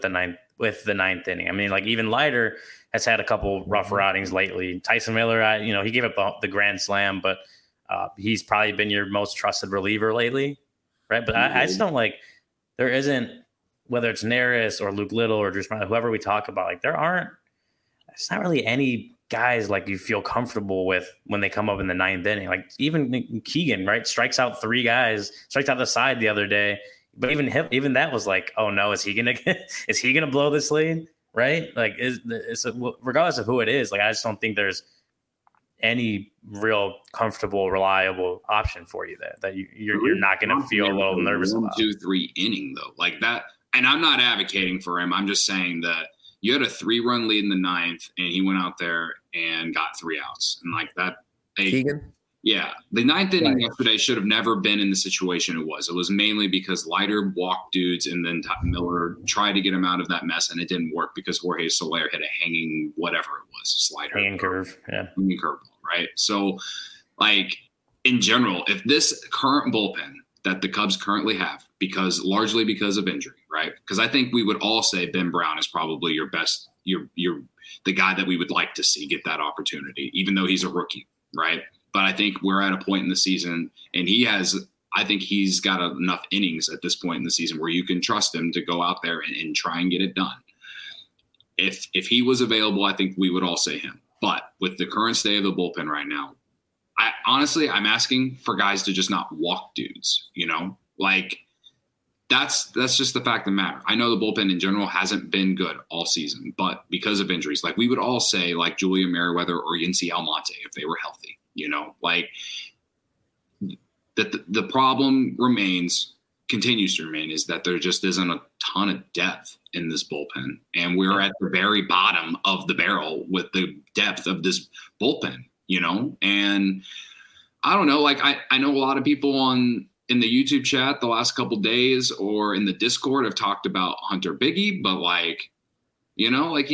ninth inning. I mean, like, even Leiter has had a couple rough outings lately. Tyson Miller, he gave up the grand slam, but he's probably been your most trusted reliever lately, right? But I just don't there isn't, whether it's Neris or Luke Little or Drew Smyly, whoever we talk about, like, it's not really any guys like you feel comfortable with when they come up in the ninth inning. Like, even Keegan, right, strikes out three guys, strikes out the side the other day. But even that was like, oh no, is he gonna blow this lead, right? Like, regardless of who it is, like, I just don't think there's any real comfortable, reliable option for you that you're not going to feel a little nervous about. 1-2-3 inning though, like that. And I'm not advocating for him. I'm just saying that you had a 3-run lead in the ninth, and he went out there and got 3 outs, and like that. Keegan. Yeah, the ninth inning yesterday should have never been in the situation it was. It was mainly because Leiter walked dudes, and then Miller tried to get him out of that mess, and it didn't work because Jorge Soler hit a hanging whatever it was, slider. Hanging curve, yeah. Hanging curve, right? So, like, in general, if this current bullpen that the Cubs currently have, largely because of injury, right? Because I think we would all say Ben Brown is probably your best you're the guy that we would like to see get that opportunity, even though he's a rookie, right? But I think we're at a point in the season, and I think he's got enough innings at this point in the season where you can trust him to go out there and try and get it done. If he was available, I think we would all say him. But with the current state of the bullpen right now, I'm asking for guys to just not walk dudes, like that's just the fact of the matter. I know the bullpen in general hasn't been good all season, but because of injuries, like we would all say like Julian Merriweather or Yency Almonte if they were healthy, like the problem continues to remain is that there just isn't a ton of depth in this bullpen. And we're at the very bottom of the barrel with the depth of this bullpen, and I don't know, like I know a lot of people in the YouTube chat the last couple days or in the Discord have talked about Hunter Biggie, but like, like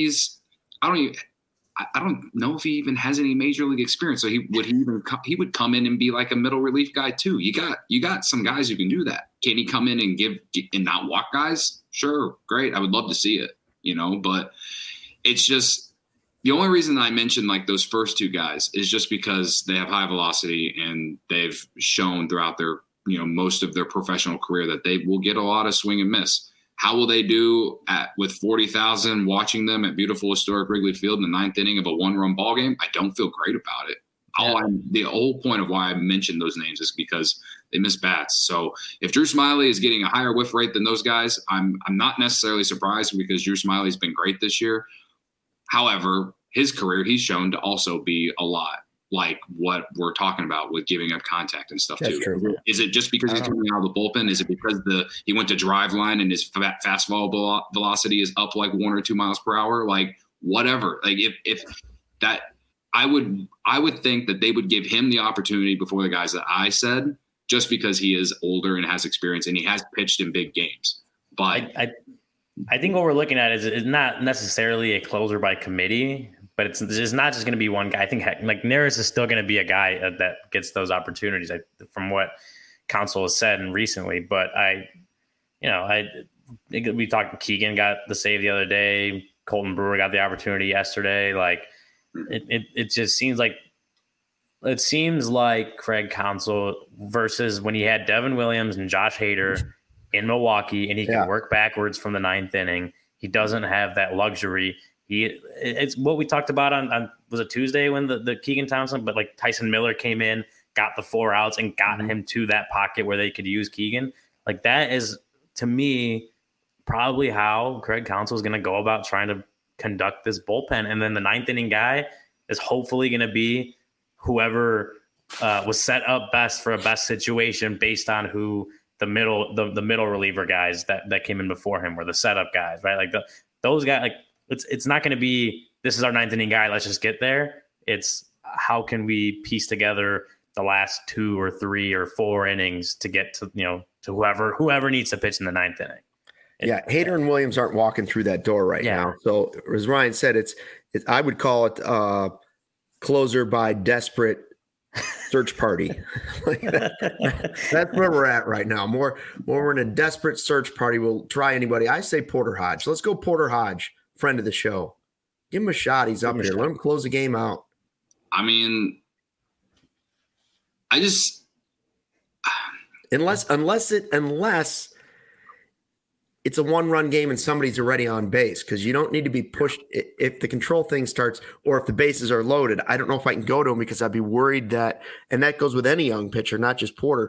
I don't know if he even has any major league experience. So he would come in and be like a middle relief guy too. You got some guys who can do that. Can he come in and and not walk guys? Sure. Great. I would love to see it, but it's just the only reason that I mentioned like those first two guys is just because they have high velocity and they've shown throughout their, most of their professional career that they will get a lot of swing and miss. How will they do with 40,000 watching them at beautiful historic Wrigley Field in the ninth inning of a one-run ball game? I don't feel great about it. Yeah. The whole point of why I mentioned those names is because they miss bats. So if Drew Smyly is getting a higher whiff rate than those guys, I'm not necessarily surprised because Drew Smyly's been great this year. However, his career, he's shown to also be a lot like what we're talking about with giving up contact and stuff. That's too. True. Is it just because he's coming out of the bullpen? Is it because he went to drive line and his fastball velocity is up like 1 or 2 miles per hour? Like whatever. Like if that, I would think that they would give him the opportunity before the guys that I said, just because he is older and has experience and he has pitched in big games. But I think what we're looking at is not necessarily a closer by committee, but it's not just going to be one guy. I think like Neris is still going to be a guy that gets those opportunities from what Counsell has said and recently. But we talked. Keegan got the save the other day. Colton Brewer got the opportunity yesterday. Like it just seems like Craig Counsell versus when he had Devin Williams and Josh Hader in Milwaukee, and he can work backwards from the ninth inning. He doesn't have that luxury. It's what we talked about on was it Tuesday when the Keegan Thompson, but like Tyson Miller came in, got the 4 outs and got him to that pocket where they could use Keegan. Like that is, to me, probably how Craig Counsell is going to go about trying to conduct this bullpen. And then the ninth inning guy is hopefully going to be whoever was set up best for a best situation based on who the middle reliever guys that came in before him were the setup guys, right? Like those guys, like it's not going to be, this is our ninth inning guy, let's just get there. It's how can we piece together the last 2 or 3 or 4 innings to get to, to whoever needs to pitch in the ninth inning. Hader and Williams aren't walking through that door right now. So as Ryan said, it's I would call it closer by desperate search party. That's where we're at right now. More we're in a desperate search party. We'll try anybody. I say Porter Hodge. Let's go Porter Hodge, friend of the show. Give him a shot. He's up here. Let him close the game out. I mean, unless it's a 1-run game and somebody's already on base, because you don't need to be pushed. If the control thing starts or if the bases are loaded, I don't know if I can go to him because I'd be worried that, and that goes with any young pitcher, not just Porter.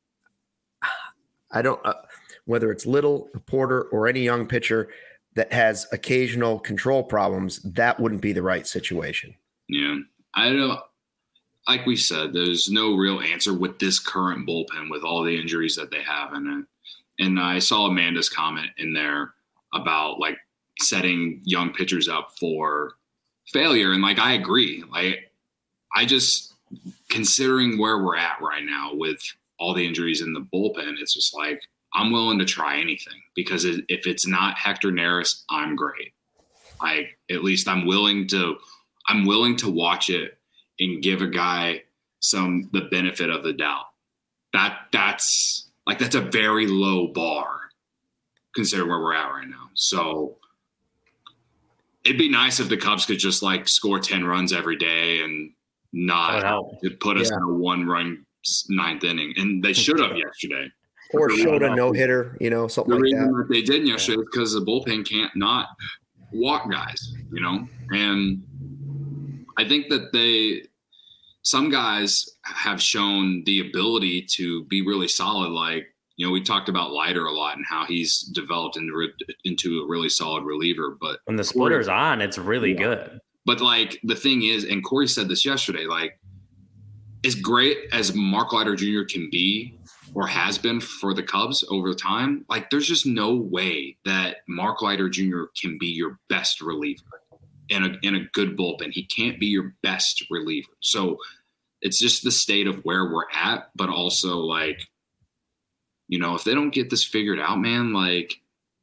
I don't, whether it's Little or Porter or any young pitcher that has occasional control problems, that wouldn't be the right situation. Yeah. I don't know. Like we said, there's no real answer with this current bullpen with all the injuries that they have in it. And I saw Amanda's comment in there about like setting young pitchers up for failure. And like, I agree. Like, I just, considering where we're at right now with all the injuries in the bullpen, it's just like, I'm willing to try anything because if it's not Hector Neris, I'm great. Like, at least I'm willing to watch it and give a guy the benefit of the doubt. That's a very low bar considering where we're at right now. So It'd be nice if the Cubs could just like score 10 runs every day and not put us in a 1-run ninth inning. And they should have yesterday. Or showed a no-hitter, something like that. The reason that they didn't yesterday is because the bullpen can't not walk guys, And I think that some guys have shown the ability to be really solid. Like, we talked about Leiter a lot and how he's developed into a really solid reliever. But when the splitter's on, it's really good. But like the thing is, and Corey said this yesterday, like as great as Mark Leiter Jr. can be or has been for the Cubs over time, like there's just no way that Mark Leiter Jr. can be your best reliever in a good bullpen. He can't be your best reliever. So it's just the state of where we're at, but also like, if they don't get this figured out, man, like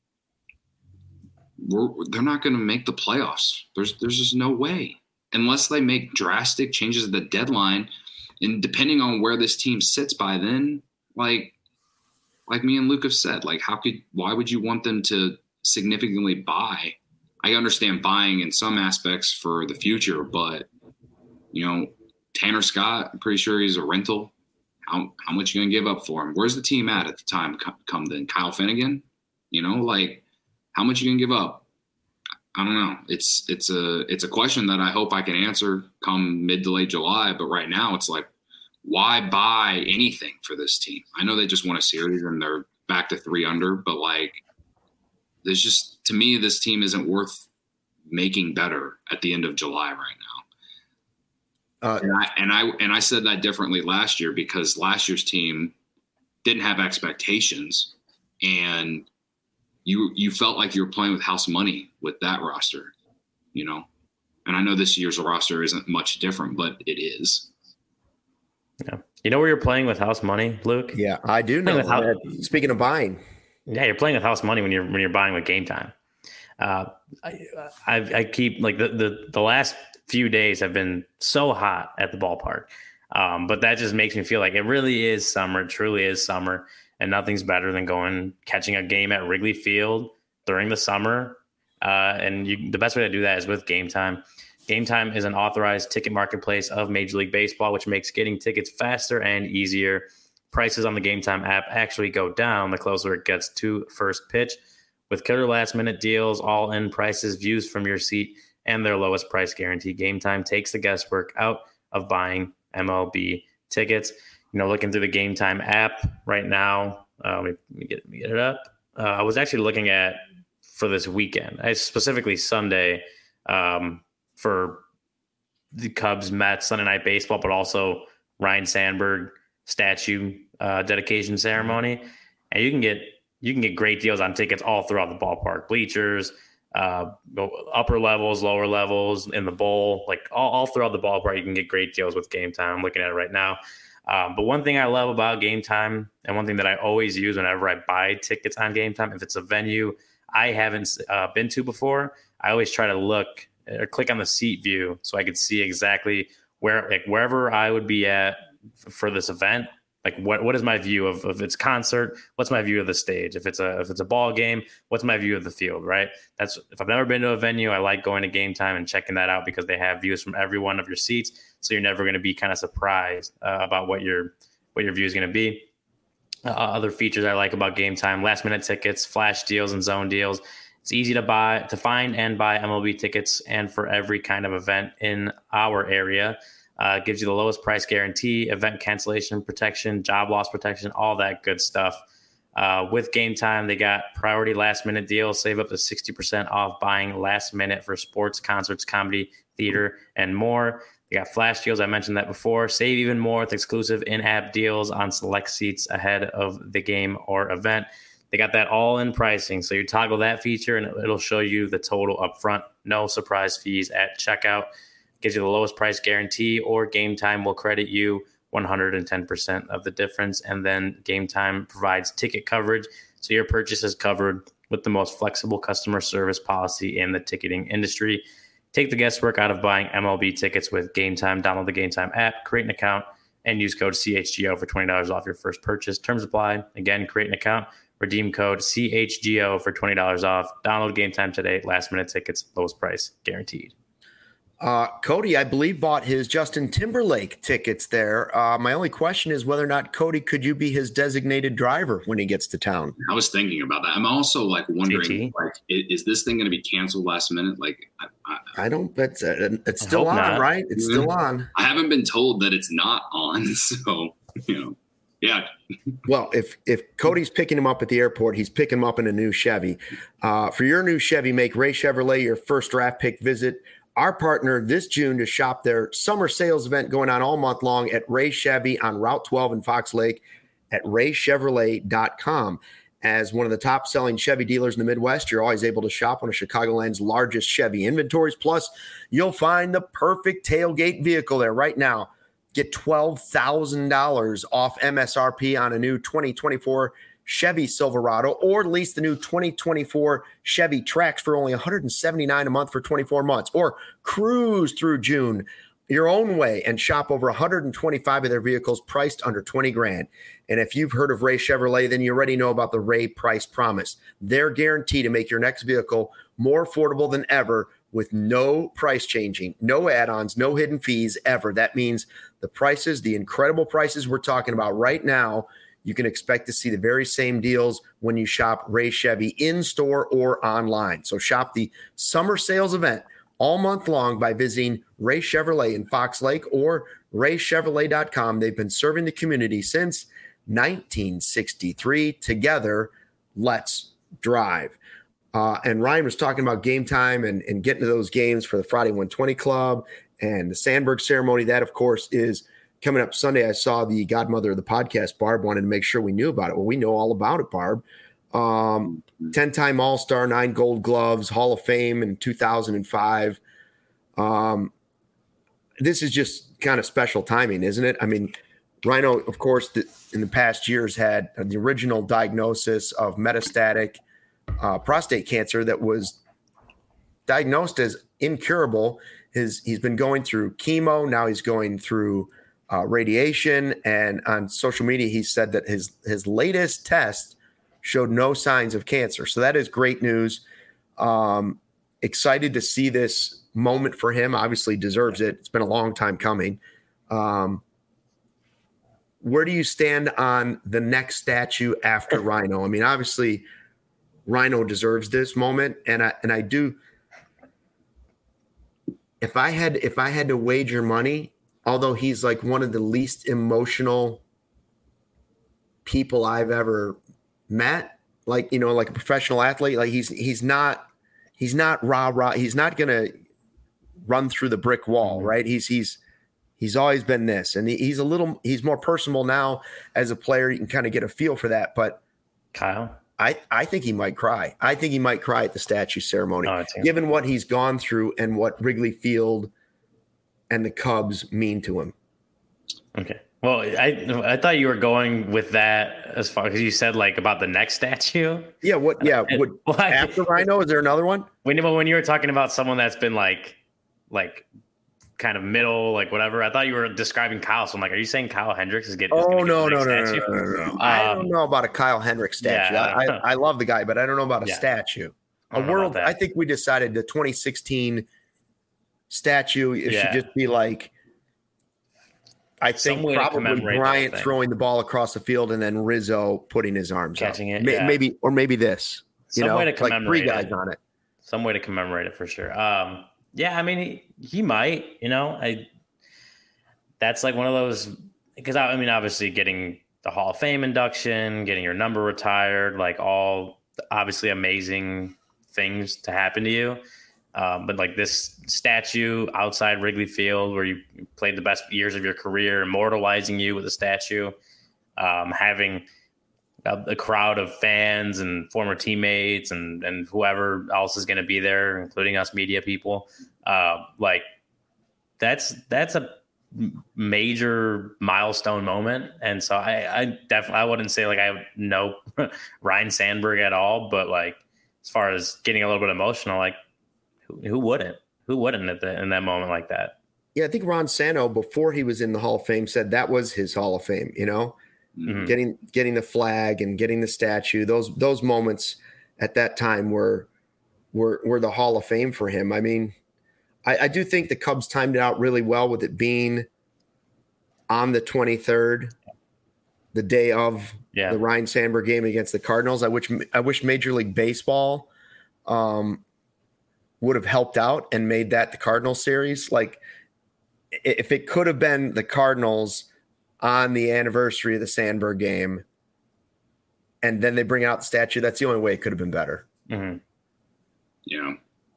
they're not going to make the playoffs. There's just no way unless they make drastic changes at the deadline. And depending on where this team sits by then, like me and Luke have said, like why would you want them to significantly buy? I understand buying in some aspects for the future, but Tanner Scott, I'm pretty sure he's a rental. How much you gonna give up for him? Where's the team at the time? Come then, Kyle Finnegan. Like how much you gonna give up? I don't know. It's a question that I hope I can answer come mid to late July. But right now, it's like, why buy anything for this team? I know they just won a series and they're back to 3 under, but like, there's just, to me, this team isn't worth making better at the end of July right now. And I said that differently last year because last year's team didn't have expectations, and you felt like you were playing with house money with that roster, And I know this year's roster isn't much different, but it is. Yeah, where you're playing with house money, Luke? Yeah, I do know. Speaking of buying, yeah, you're playing with house money when you're buying with Game Time. I keep like the last few days have been so hot at the ballpark. But that just makes me feel like it really is summer. It truly is summer, and nothing's better than catching a game at Wrigley Field during the summer. And the best way to do that is with Game Time. Game Time is an authorized ticket marketplace of Major League Baseball, which makes getting tickets faster and easier. Prices on the Game Time app actually go down the closer it gets to first pitch. With killer last-minute deals, all-in prices, views from your seat, and their lowest price guarantee, Game Time takes the guesswork out of buying MLB tickets. Looking through the Game Time app right now, let me get it up. I was actually looking at for this weekend, specifically Sunday, for the Cubs Mets Sunday Night Baseball, but also Ryan Sandberg statue dedication ceremony, and you can get great deals on tickets all throughout the ballpark, bleachers, upper levels, lower levels, in the bowl, like all throughout the ballpark. You can get great deals with Game Time. I'm looking at it right now. But one thing I love about Game Time, and one thing that I always use whenever I buy tickets on Game Time, if it's a venue I haven't been to before, I always try to look or click on the seat view so I could see exactly wherever I would be at for this event. Like what is my view of its concert? What's my view of the stage? If it's a ball game, what's my view of the field? Right. If I've never been to a venue, I like going to Game Time and checking that out because they have views from every one of your seats. So you're never going to be kind of surprised about what your view is going to be. Other features I like about Game Time: last minute tickets, flash deals, and zone deals. It's easy to find and buy MLB tickets, and for every kind of event in our area. Gives you the lowest price guarantee, event cancellation protection, job loss protection, all that good stuff. With Game Time, they got priority last minute deals, save up to 60% off buying last minute for sports, concerts, comedy, theater, and more. They got flash deals. I mentioned that before. Save even more with exclusive in-app deals on select seats ahead of the game or event. They got that all-in pricing. So you toggle that feature and it'll show you the total upfront. No surprise fees at checkout. Gives you the lowest price guarantee, or Game Time will credit you 110% of the difference. And then Game Time provides ticket coverage, so your purchase is covered with the most flexible customer service policy in the ticketing industry. Take the guesswork out of buying MLB tickets with Game Time. Download the Game Time app, create an account, and use code CHGO for $20 off your first purchase. Terms apply. Again, create an account, Redeem code CHGO for $20 off. Download Game Time today. Last minute tickets, lowest price guaranteed. Cody, I believe, bought his Justin Timberlake tickets there. My only question is whether or not, Cody, could you be his designated driver when he gets to town? I was thinking about that. I'm also like wondering, like, is this thing going to be canceled last minute? Like, I don't. It's still on, not. Right? It's still on. I haven't been told that it's not on, so yeah. Well, if Cody's picking him up at the airport, he's picking him up in a new Chevy. For your new Chevy, make Ray Chevrolet your first draft pick. Visit our partner this June to shop their summer sales event going on all month long at Ray Chevy on Route 12 in Fox Lake at raychevrolet.com. As one of the top-selling Chevy dealers in the Midwest, you're always able to shop one of Chicagoland's largest Chevy inventories. Plus, you'll find the perfect tailgate vehicle there right now. Get $12,000 off MSRP on a new 2024 Chevy Silverado, or lease the new 2024 Chevy Trax for only $179 a month for 24 months, or cruise through June your own way and shop over 125 of their vehicles priced under $20,000. And if you've heard of Ray Chevrolet, then you already know about the Ray Price Promise. They're guaranteed to make your next vehicle more affordable than ever with no price changing, no add-ons, no hidden fees ever. That means the prices, the incredible prices we're talking about right now, you can expect to see the very same deals when you shop Ray Chevy in-store or online. So shop the summer sales event all month long by visiting Ray Chevrolet in Fox Lake or raychevrolet.com. They've been serving the community since 1963. Together, let's drive. And Ryan was talking about Game Time and getting to those games for the Friday 120 Club and the Sandberg ceremony. That, of course, is coming up Sunday. I saw the godmother of the podcast, Barb, wanted to make sure we knew about it. Well, we know all about it, Barb. 10-time All-Star, 9 Gold Gloves, Hall of Fame in 2005. This is just kind of special timing, isn't it? I mean, Rhino, of course, in the past years had the original diagnosis of metastatic prostate cancer that was diagnosed as incurable. He's been going through chemo. Now he's going through radiation, and on social media, he said that his latest test showed no signs of cancer. So that is great news. Excited to see this moment for him. Obviously deserves it. It's been a long time coming. Where do you stand on the next statue after Rhino? I mean, obviously Rhino deserves this moment. And I do, if I had to wager money, although he's like one of the least emotional people I've ever met, like a professional athlete, like he's not rah. He's not going to run through the brick wall, right? He's always been this, and he's more personable now as a player. You can kind of get a feel for that. But Kyle, I think he might cry. I think he might cry at the statue ceremony, given what he's gone through and what Wrigley Field and the Cubs mean to him. Okay. Well, I thought you were going with that as far as you said, like about the next statue. Yeah. What? Yeah. After Rhino, is there another one? When you were talking about someone that's been like kind of middle, like whatever, I thought you were describing Kyle. So I'm like, are you saying Kyle Hendricks is getting? Oh no. I don't know about a Kyle Hendricks statue. Yeah. I love the guy, but I don't know about a statue. I think we decided the 2016 statue should just be like, I think probably Bryant throwing the ball across the field and then Rizzo putting his arms catching up. It, maybe this. Some way to commemorate like 3 guys on it. Some way to commemorate it for sure. Yeah, I mean he might. That's like one of those, because I mean obviously getting the Hall of Fame induction, getting your number retired, like all obviously amazing things to happen to you. But like this statue outside Wrigley Field where you played the best years of your career, immortalizing you with a statue, having a crowd of fans and former teammates and whoever else is going to be there, including us media people. Like that's a major milestone moment. And so I definitely, I wouldn't say like I know Ryne Sandberg at all, but like, as far as getting a little bit emotional, like, who wouldn't in that moment like that? Yeah, I think Ron Santo, before he was in the Hall of Fame, said that was his Hall of Fame, getting the flag and getting the statue. Those moments at that time were the Hall of Fame for him. I mean, I do think the Cubs timed it out really well with it being on the 23rd, the day of the Ryne Sandberg game against the Cardinals. I wish Major League Baseball would have helped out and made that the Cardinals series. Like, if it could have been the Cardinals on the anniversary of the Sandberg game, and then they bring out the statue, that's the only way it could have been better. Mm-hmm. Yeah.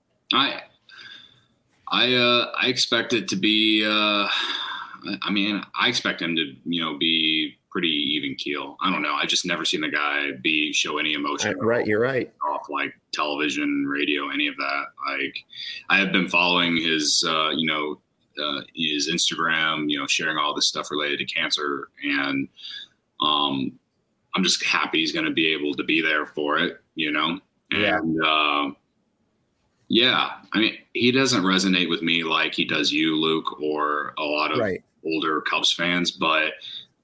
I expect it to be, I expect him to, be pretty even keel. I don't know. I just never seen the guy show any emotion. Right. You're right. Off like television, radio, any of that. Like, I have been following his, his Instagram, sharing all this stuff related to cancer. And I'm just happy he's going to be able to be there for it, And, I mean, he doesn't resonate with me like he does you, Luke, or a lot of older Cubs fans. But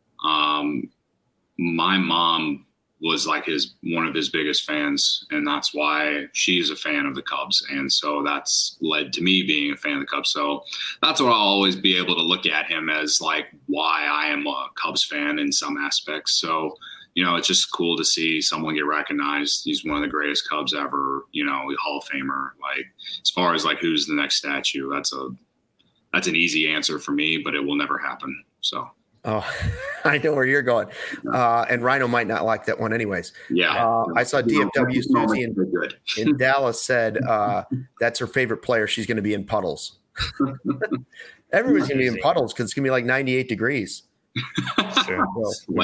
my mom was like one of his biggest fans, and that's why she's a fan of the Cubs. And so that's led to me being a fan of the Cubs. So that's what I'll always be able to look at him as, like, why I am a Cubs fan in some aspects. So, it's just cool to see someone get recognized. He's one of the greatest Cubs ever, Hall of Famer. Like, as far as like who's the next statue, that's an easy answer for me, but it will never happen. So. Oh, I know where you're going. And Rhino might not like that one anyways. Yeah. I saw DFW Susie in Dallas said that's her favorite player. She's going to be in puddles. Everyone's going to be in puddles because it's going to be like 98 degrees. Sure. So,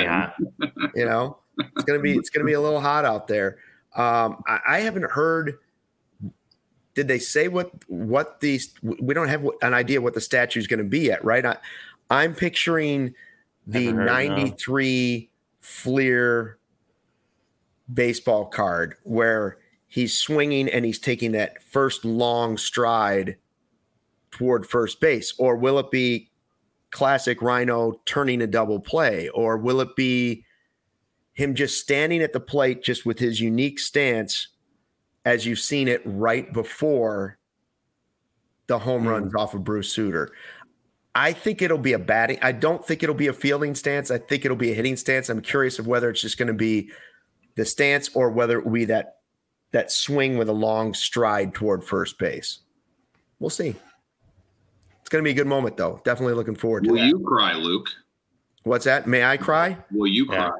it's going to be a little hot out there. I haven't heard. Did they say what these? We don't have an idea what the statue is going to be yet, right? I'm picturing the 93 Fleer baseball card where he's swinging and he's taking that first long stride toward first base. Or will it be classic Rhino turning a double play? Or will it be him just standing at the plate just with his unique stance as you've seen it right before the home runs off of Bruce Sutter? I think it'll be a batting. I don't think it'll be a fielding stance. I think it'll be a hitting stance. I'm curious of whether it's just going to be the stance or whether it will be that swing with a long stride toward first base. We'll see. It's going to be a good moment, though. Definitely looking forward to that. Will you cry, Luke? What's that? May I cry? Will you cry?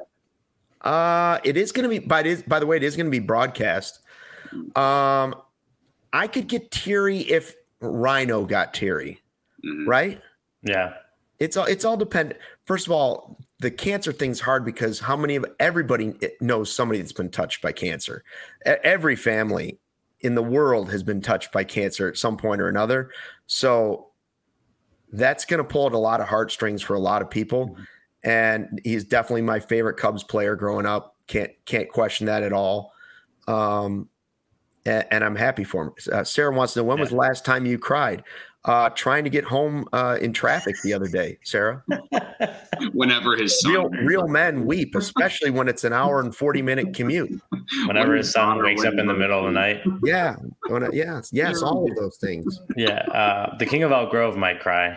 It is going to be. By the way, it is going to be broadcast. I could get teary if Rhino got teary, right? Yeah. It's all dependent. First of all, the cancer thing's hard because everybody knows somebody that's been touched by cancer. Every family in the world has been touched by cancer at some point or another. So that's going to pull at a lot of heartstrings for a lot of people. And he's definitely my favorite Cubs player growing up. Can't question that at all. And I'm happy for him. Sarah wants to know, when was the last time you cried? Trying to get home in traffic the other day, Sarah. Whenever his son real men weep, especially when it's an hour and 40-minute commute. Whenever his son wakes up in the middle of the night. Yeah. Yes, all of those things. Yeah. The King of Elk Grove might cry.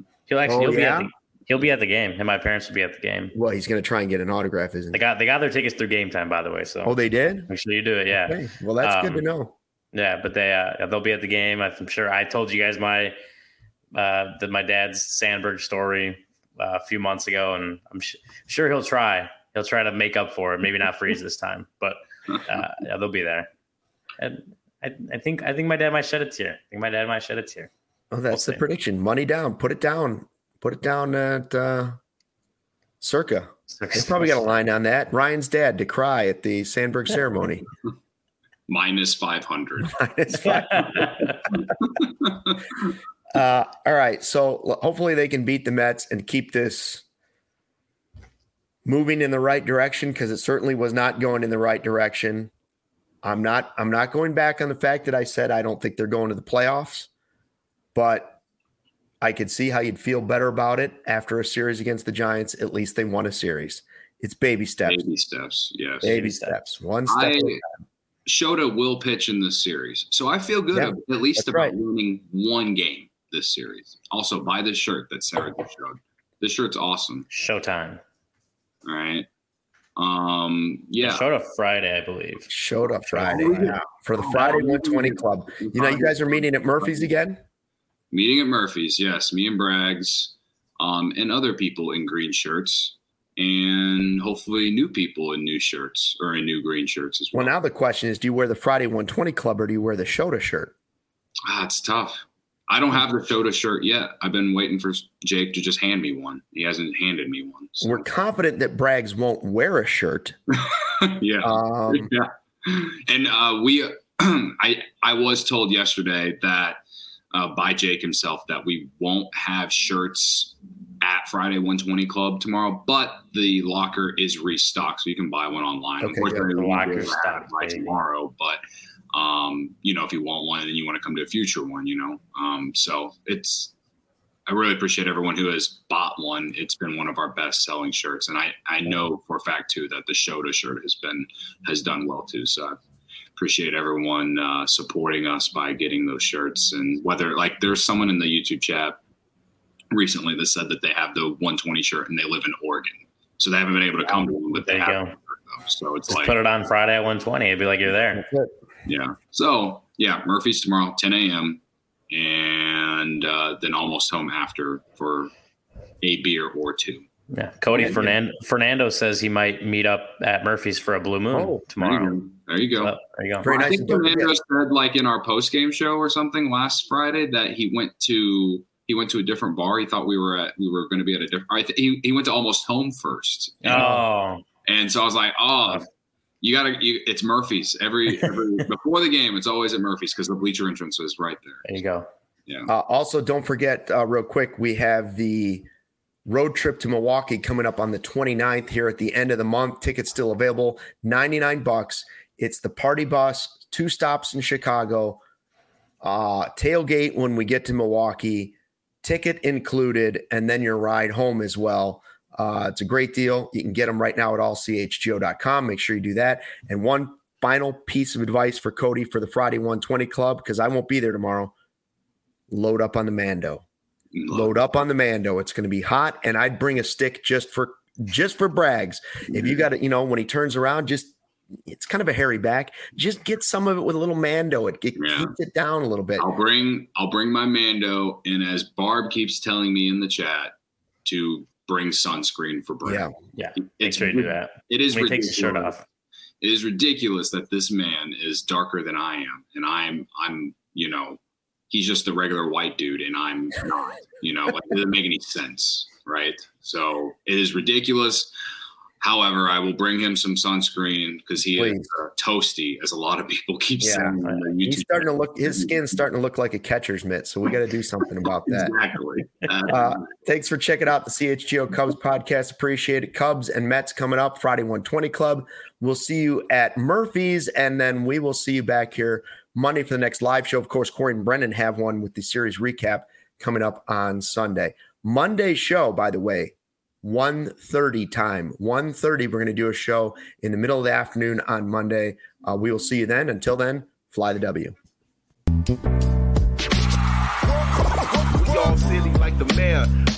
He'll be at the game, and my parents will be at the game. Well, he's going to try and get an autograph, isn't he? They got their tickets through Game Time, by the way. So. Oh, they did? Make sure you do it. Yeah. Okay. Well, that's good to know. Yeah, but they'll be at the game. I'm sure I told you guys my dad's Sandberg story a few months ago, and I'm sure he'll try. He'll try to make up for it. Maybe not freeze this time, but they'll be there. And I think my dad might shed a tear. Oh, that's the prediction. Money down. Put it down. Put it down at Circa. They probably got a line on that. Ryan's dad to cry at the Sandberg ceremony. Minus 500. All right. So hopefully they can beat the Mets and keep this moving in the right direction, because it certainly was not going in the right direction. I'm not going back on the fact that I said I don't think they're going to the playoffs, but I could see how you'd feel better about it after a series against the Giants. At least they won a series. It's baby steps. Baby steps, yes. Baby steps. One step at a time. Shota will pitch in this series. So I feel good at least about winning one game this series. Also, buy this shirt that Sarah just showed. This shirt's awesome. Showtime. All right. Shota Friday, I believe. Shota Friday. Yeah. For the Friday 120 Club. You know, you guys are meeting at Murphy's again? Meeting at Murphy's, yes. Me and Braggs, and other people in green shirts. And hopefully new people in new shirts or in new green shirts as well. Well, now the question is, do you wear the Friday 120 Club or do you wear the Shota shirt? It's tough. I don't have the Shota shirt yet. I've been waiting for Jake to just hand me one. He hasn't handed me one. So. We're confident that Braggs won't wear a shirt. Yeah. And I was told yesterday that by Jake himself that we won't have shirts at Friday 120 Club tomorrow, but the locker is restocked, so you can buy one online. Okay, unfortunately, the locker's stocked by tomorrow, but if you want one and then you want to come to a future one, so I really appreciate everyone who has bought one. It's been one of our best selling shirts, and I know for a fact too that the Shota shirt has done well too. So I appreciate everyone supporting us by getting those shirts. And whether there's someone in the YouTube chat recently that said that they have the 120 shirt and they live in Oregon, so they haven't been able to come to one, but they have it, so it's just put it on Friday at 120. It'd be like you're there. Yeah. So Murphy's tomorrow, 10 a.m. and then almost home after for a beer or two. Yeah. Cody Fernando says he might meet up at Murphy's for a Blue Moon tomorrow. There you go. There you go. Very nice. I think Fernando said in our post game show or something last Friday that he went to a different bar. He thought we were going to be at a different. He went to Almost Home first. And so I was like, it's Murphy's every before the game. It's always at Murphy's because the bleacher entrance is right there. There you go. Yeah. Also, don't forget, real quick, we have the road trip to Milwaukee coming up on the 29th here at the end of the month. Tickets still available, $99. It's the party bus, 2 stops in Chicago, tailgate when we get to Milwaukee, ticket included, and then your ride home as well. It's a great deal. You can get them right now at allchgo.com. Make sure you do that. And one final piece of advice for Cody for the Friday 120 Club, because I won't be there tomorrow. Load up on the Mando. Load up on the Mando. It's going to be hot, and I'd bring a stick just for Braggs. If you got it, when he turns around, it's kind of a hairy back. Just get some of it with a little Mando. It keeps it down a little bit. I'll bring my Mando, and as Barb keeps telling me in the chat, to bring sunscreen for Bragg. Yeah. Make sure you do that. It is when ridiculous. He takes his shirt off. It is ridiculous that this man is darker than I am, and I'm he's just a regular white dude, and I'm not. It doesn't make any sense, right? So it is ridiculous. However, I will bring him some sunscreen because he is toasty, as a lot of people keep saying. He's starting to look. His skin's starting to look like a catcher's mitt, so we got to do something about that. Exactly. Thanks for checking out the CHGO Cubs podcast. Appreciate it. Cubs and Mets coming up Friday 120 Club. We'll see you at Murphy's, and then we will see you back here Monday for the next live show. Of course, Corey and Brendan have one with the series recap coming up on Sunday. Monday's show, by the way, 1:30 time. 1:30, we're going to do a show in the middle of the afternoon on Monday. We will see you then. Until then, fly the W. We all silly like the mayor.